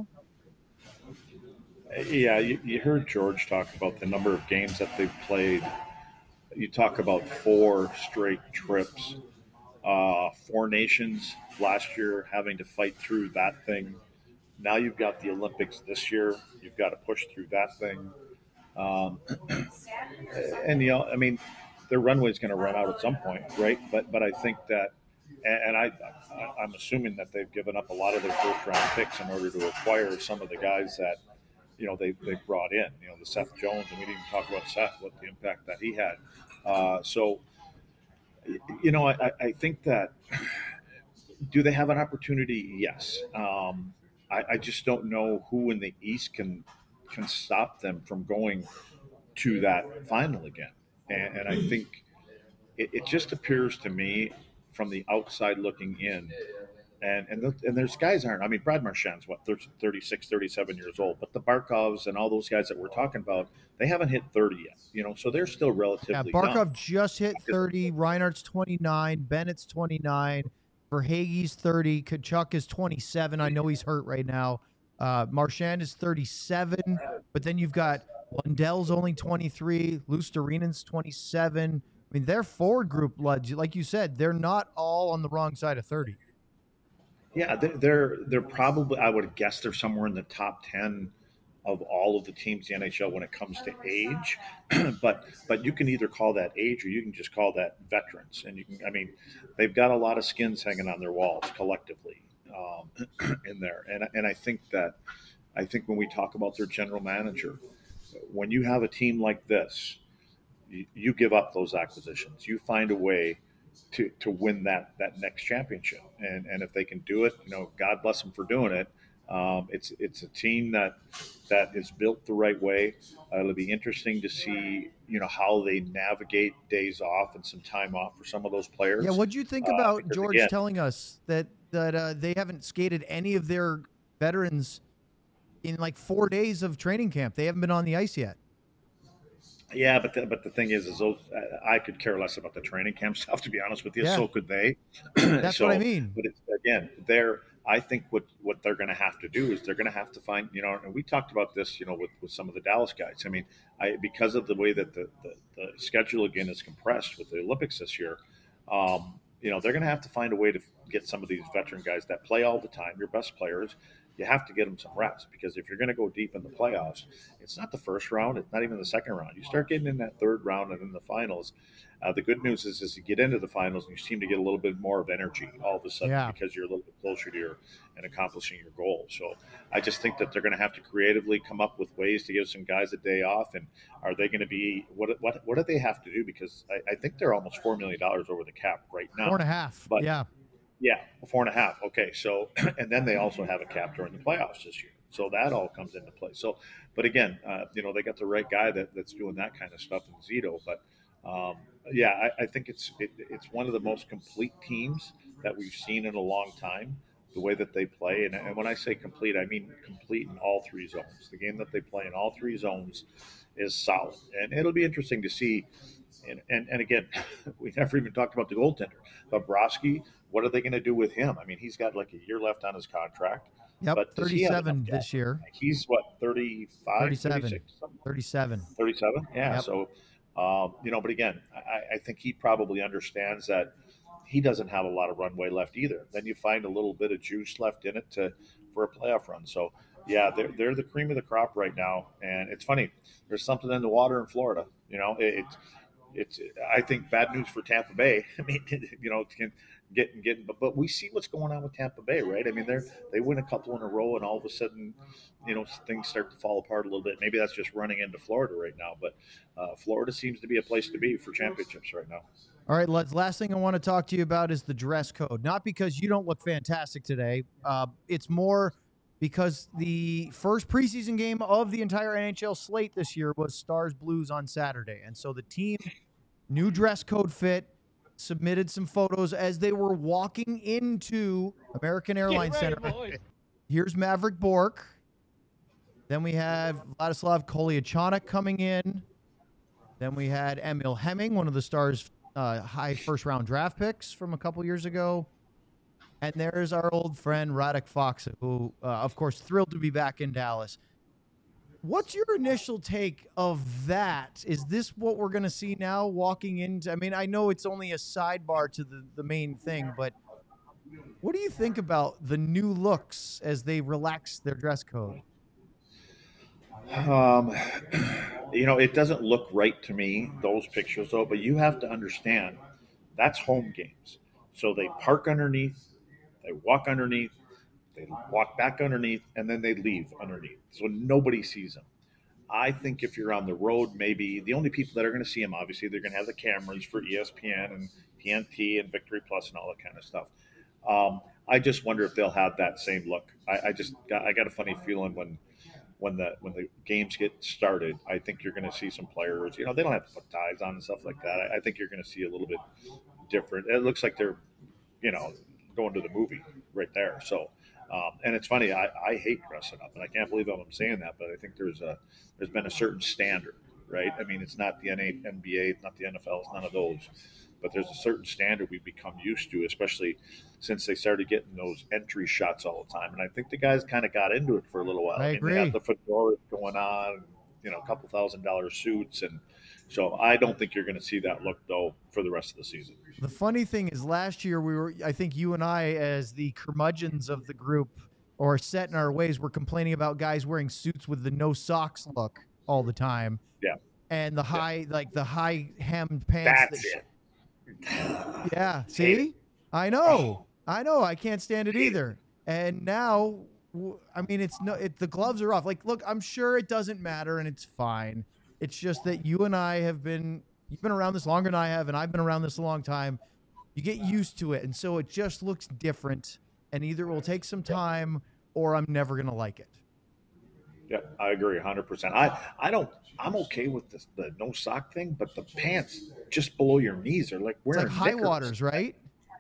Yeah, you, you heard George talk about the number of games that they've played. You talk about four straight trips, uh, four nations last year having to fight through that thing. Now you've got the Olympics this year. You've got to push through that thing. Um, and, you know, I mean, their runway is going to run out at some point, right? But but I think that, and I, I'm assuming that they've given up a lot of their first-round picks in order to acquire some of the guys that, you know, they, they brought in. You know, the Seth Jones, and we didn't even talk about Seth, what the impact that he had. Uh, so, you know, I, I think that, do they have an opportunity? Yes. Um, I, I just don't know who in the East can can stop them from going to that final again. And, and I think it, it just appears to me from the outside looking in, and and, the, and there's guys aren't, I mean, Brad Marchand's what, thirty-six, thirty-seven years old, but the Barkovs and all those guys that we're talking about, they haven't hit thirty yet, you know, so they're still relatively Yeah, Barkov young. just hit thirty, Reinhardt's twenty-nine, Bennett's twenty-nine, Verhaeghe's thirty, Kachuk is twenty-seven. I know he's hurt right now. Uh, Marchand is thirty-seven, but then you've got Lundell's only twenty-three, Lustarinen's twenty-seven. I mean, their forward group, like you said, they're not all on the wrong side of thirty. Yeah, they're they're probably, I would guess they're somewhere in the top ten of all of the teams in the N H L when it comes to age. but but you can either call that age or you can just call that veterans. And you can, I mean, they've got a lot of skins hanging on their walls collectively um, in there. And and I think that I think when we talk about their general manager, when you have a team like this, you, you give up those acquisitions. You find a way to to win that that next championship. And and if they can do it, you know, God bless them for doing it. Um, it's it's a team that that is built the right way. Uh, it'll be interesting to see, you know, how they navigate days off and some time off for some of those players. Yeah, what do you think Uh, about because, George again, telling us that that uh, they haven't skated any of their veterans in like four days of training camp? They haven't been on the ice yet. Yeah, but the, but the thing is, is those, I could care less about the training camp stuff, to be honest with you. Yeah. So could they. That's so, what I mean. But it's, again, they're. I think what, what they're going to have to do is they're going to have to find, you know, and we talked about this, you know, with, with some of the Dallas guys. I mean, I because of the way that the, the, the schedule again is compressed with the Olympics this year, um, you know, they're going to have to find a way to get some of these veteran guys that play all the time, your best players, you have to get them some reps, because if you're going to go deep in the playoffs, it's not the first round, it's not even the second round. You start getting in that third round and in the finals. Uh, the good news is, is you get into the finals and you seem to get a little bit more of energy all of a sudden, Yeah. because you're a little bit closer to your and accomplishing your goal. So I just think that they're going to have to creatively come up with ways to give some guys a day off. And are they going to be what what what do they have to do? Because I, I think they're almost four million dollars over the cap right now. Four and a half. But yeah. Yeah, four and a half. Okay, so and then they also have a cap during the playoffs this year, so that all comes into play. So, but again, uh, you know, they got the right guy that, that's doing that kind of stuff in Zito. But um, yeah, I, I think it's it, it's one of the most complete teams that we've seen in a long time. The way that they play, and, and when I say complete, I mean complete in all three zones. The game that they play in all three zones is solid, and it'll be interesting to see. And and, and again, we never even talked about the goaltender, Bobrovsky. What are they going to do with him? I mean, he's got like a year left on his contract. Yep, but thirty-seven this year. He's what, thirty-five, thirty-seven. thirty-six, thirty-seven. thirty-seven? Yeah. Yep. So, um, you know, but again, I, I think he probably understands that he doesn't have a lot of runway left either. Then you find a little bit of juice left in it to for a playoff run. So, yeah, they're, they're the cream of the crop right now. And it's funny. There's something in the water in Florida. You know, it, it's, it's, I think, bad news for Tampa Bay. I mean, you know, can getting getting but, but we see what's going on with Tampa Bay, right? I mean, they're they win a couple in a row and all of a sudden, you know, things start to fall apart a little bit. Maybe that's just running into Florida right now, but uh, Florida seems to be a place to be for championships right now. All right, let's, last thing I want to talk to you about is the dress code. Not because you don't look fantastic today. Uh, it's more because the first preseason game of the entire N H L slate this year was Stars Blues on Saturday. And so the team, new dress code fit, submitted some photos as they were walking into American Airlines ready, Center. boys. Here's Maverick Bourque. Then we have Vladislav Kolyachonok coming in. Then we had Emil Hemming, one of the Stars' uh, high first-round draft picks from a couple years ago. And there's our old friend Radek Faksa, who, uh, of course, thrilled to be back in Dallas. What's your initial take of that? Is this what we're going to see now walking into? I mean, I know it's only a sidebar to the, the main thing, but what do you think about the new looks as they relax their dress code? Um, you know, it doesn't look right to me, those pictures, though, but you have to understand that's home games. So they park underneath, they walk underneath, they walk back underneath, and then they leave underneath. So nobody sees them. I think if you're on the road, maybe the only people that are going to see them, obviously, they're going to have the cameras for E S P N and T N T and Victory Plus and all that kind of stuff. Um, I just wonder if they'll have that same look. I, I just got, I got a funny feeling when when the when the games get started. I think you're going to see some players. You know, they don't have to put ties on and stuff like that. I, I think you're going to see a little bit different. It looks like they're, you know, going to the movie right there. So. Um, and it's funny, I, I hate dressing up, and I can't believe I'm saying that, but I think there's a there's been a certain standard, right? I mean, it's not the N B A, it's not the N F L, it's none of those, but there's a certain standard we've become used to, especially since they started getting those entry shots all the time. And I think the guys kind of got into it for a little while. I mean, agree. They got the fedoras going on, you know, a couple thousand dollar suits, and so I don't think you're going to see that look though for the rest of the season. The funny thing is, last year we were, I think you and I, as the curmudgeons of the group, or set in our ways, were complaining about guys wearing suits with the no socks look all the time. Yeah. And the high, yeah. like the high hemmed pants. That's that it. Yeah. See, I know, I know, I can't stand it either. And now, I mean, it's no, it, the gloves are off. Like, look, I'm sure it doesn't matter and it's fine. It's just that you and I have been. You've been around this longer than I have, and I've been around this a long time. You get used to it, and so it just looks different, and either it will take some time or I'm never going to like it. Yeah, I agree one hundred percent. I, I don't – I'm okay with this, the no sock thing, but the pants just below your knees are like It's wearing like high knickers. waters, right?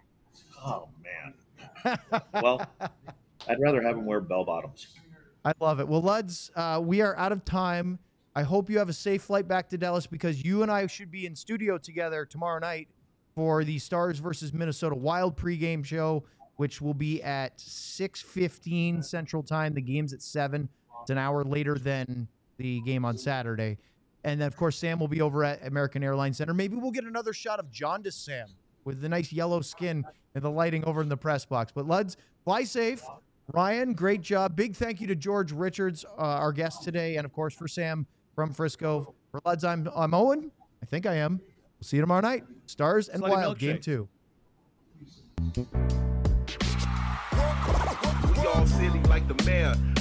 Oh, man. Well, I'd rather have them wear bell bottoms. I love it. Well, Luds, uh, we are out of time. I hope you have a safe flight back to Dallas, because you and I should be in studio together tomorrow night for the Stars versus Minnesota Wild pregame show, which will be at six fifteen Central Time. The game's at seven. It's an hour later than the game on Saturday. And then, of course, Sam will be over at American Airlines Center. Maybe we'll get another shot of jaundice Sam with the nice yellow skin and the lighting over in the press box. But, Luds, fly safe. Ryan, great job. Big thank you to George Richards, uh, our guest today, and of course for Sam from Frisco. For Luds, I'm, I'm Owen. I think I am. We'll see you tomorrow night. Stars and Slutty Wild, game milkshakes. two. We all silly like the mayor.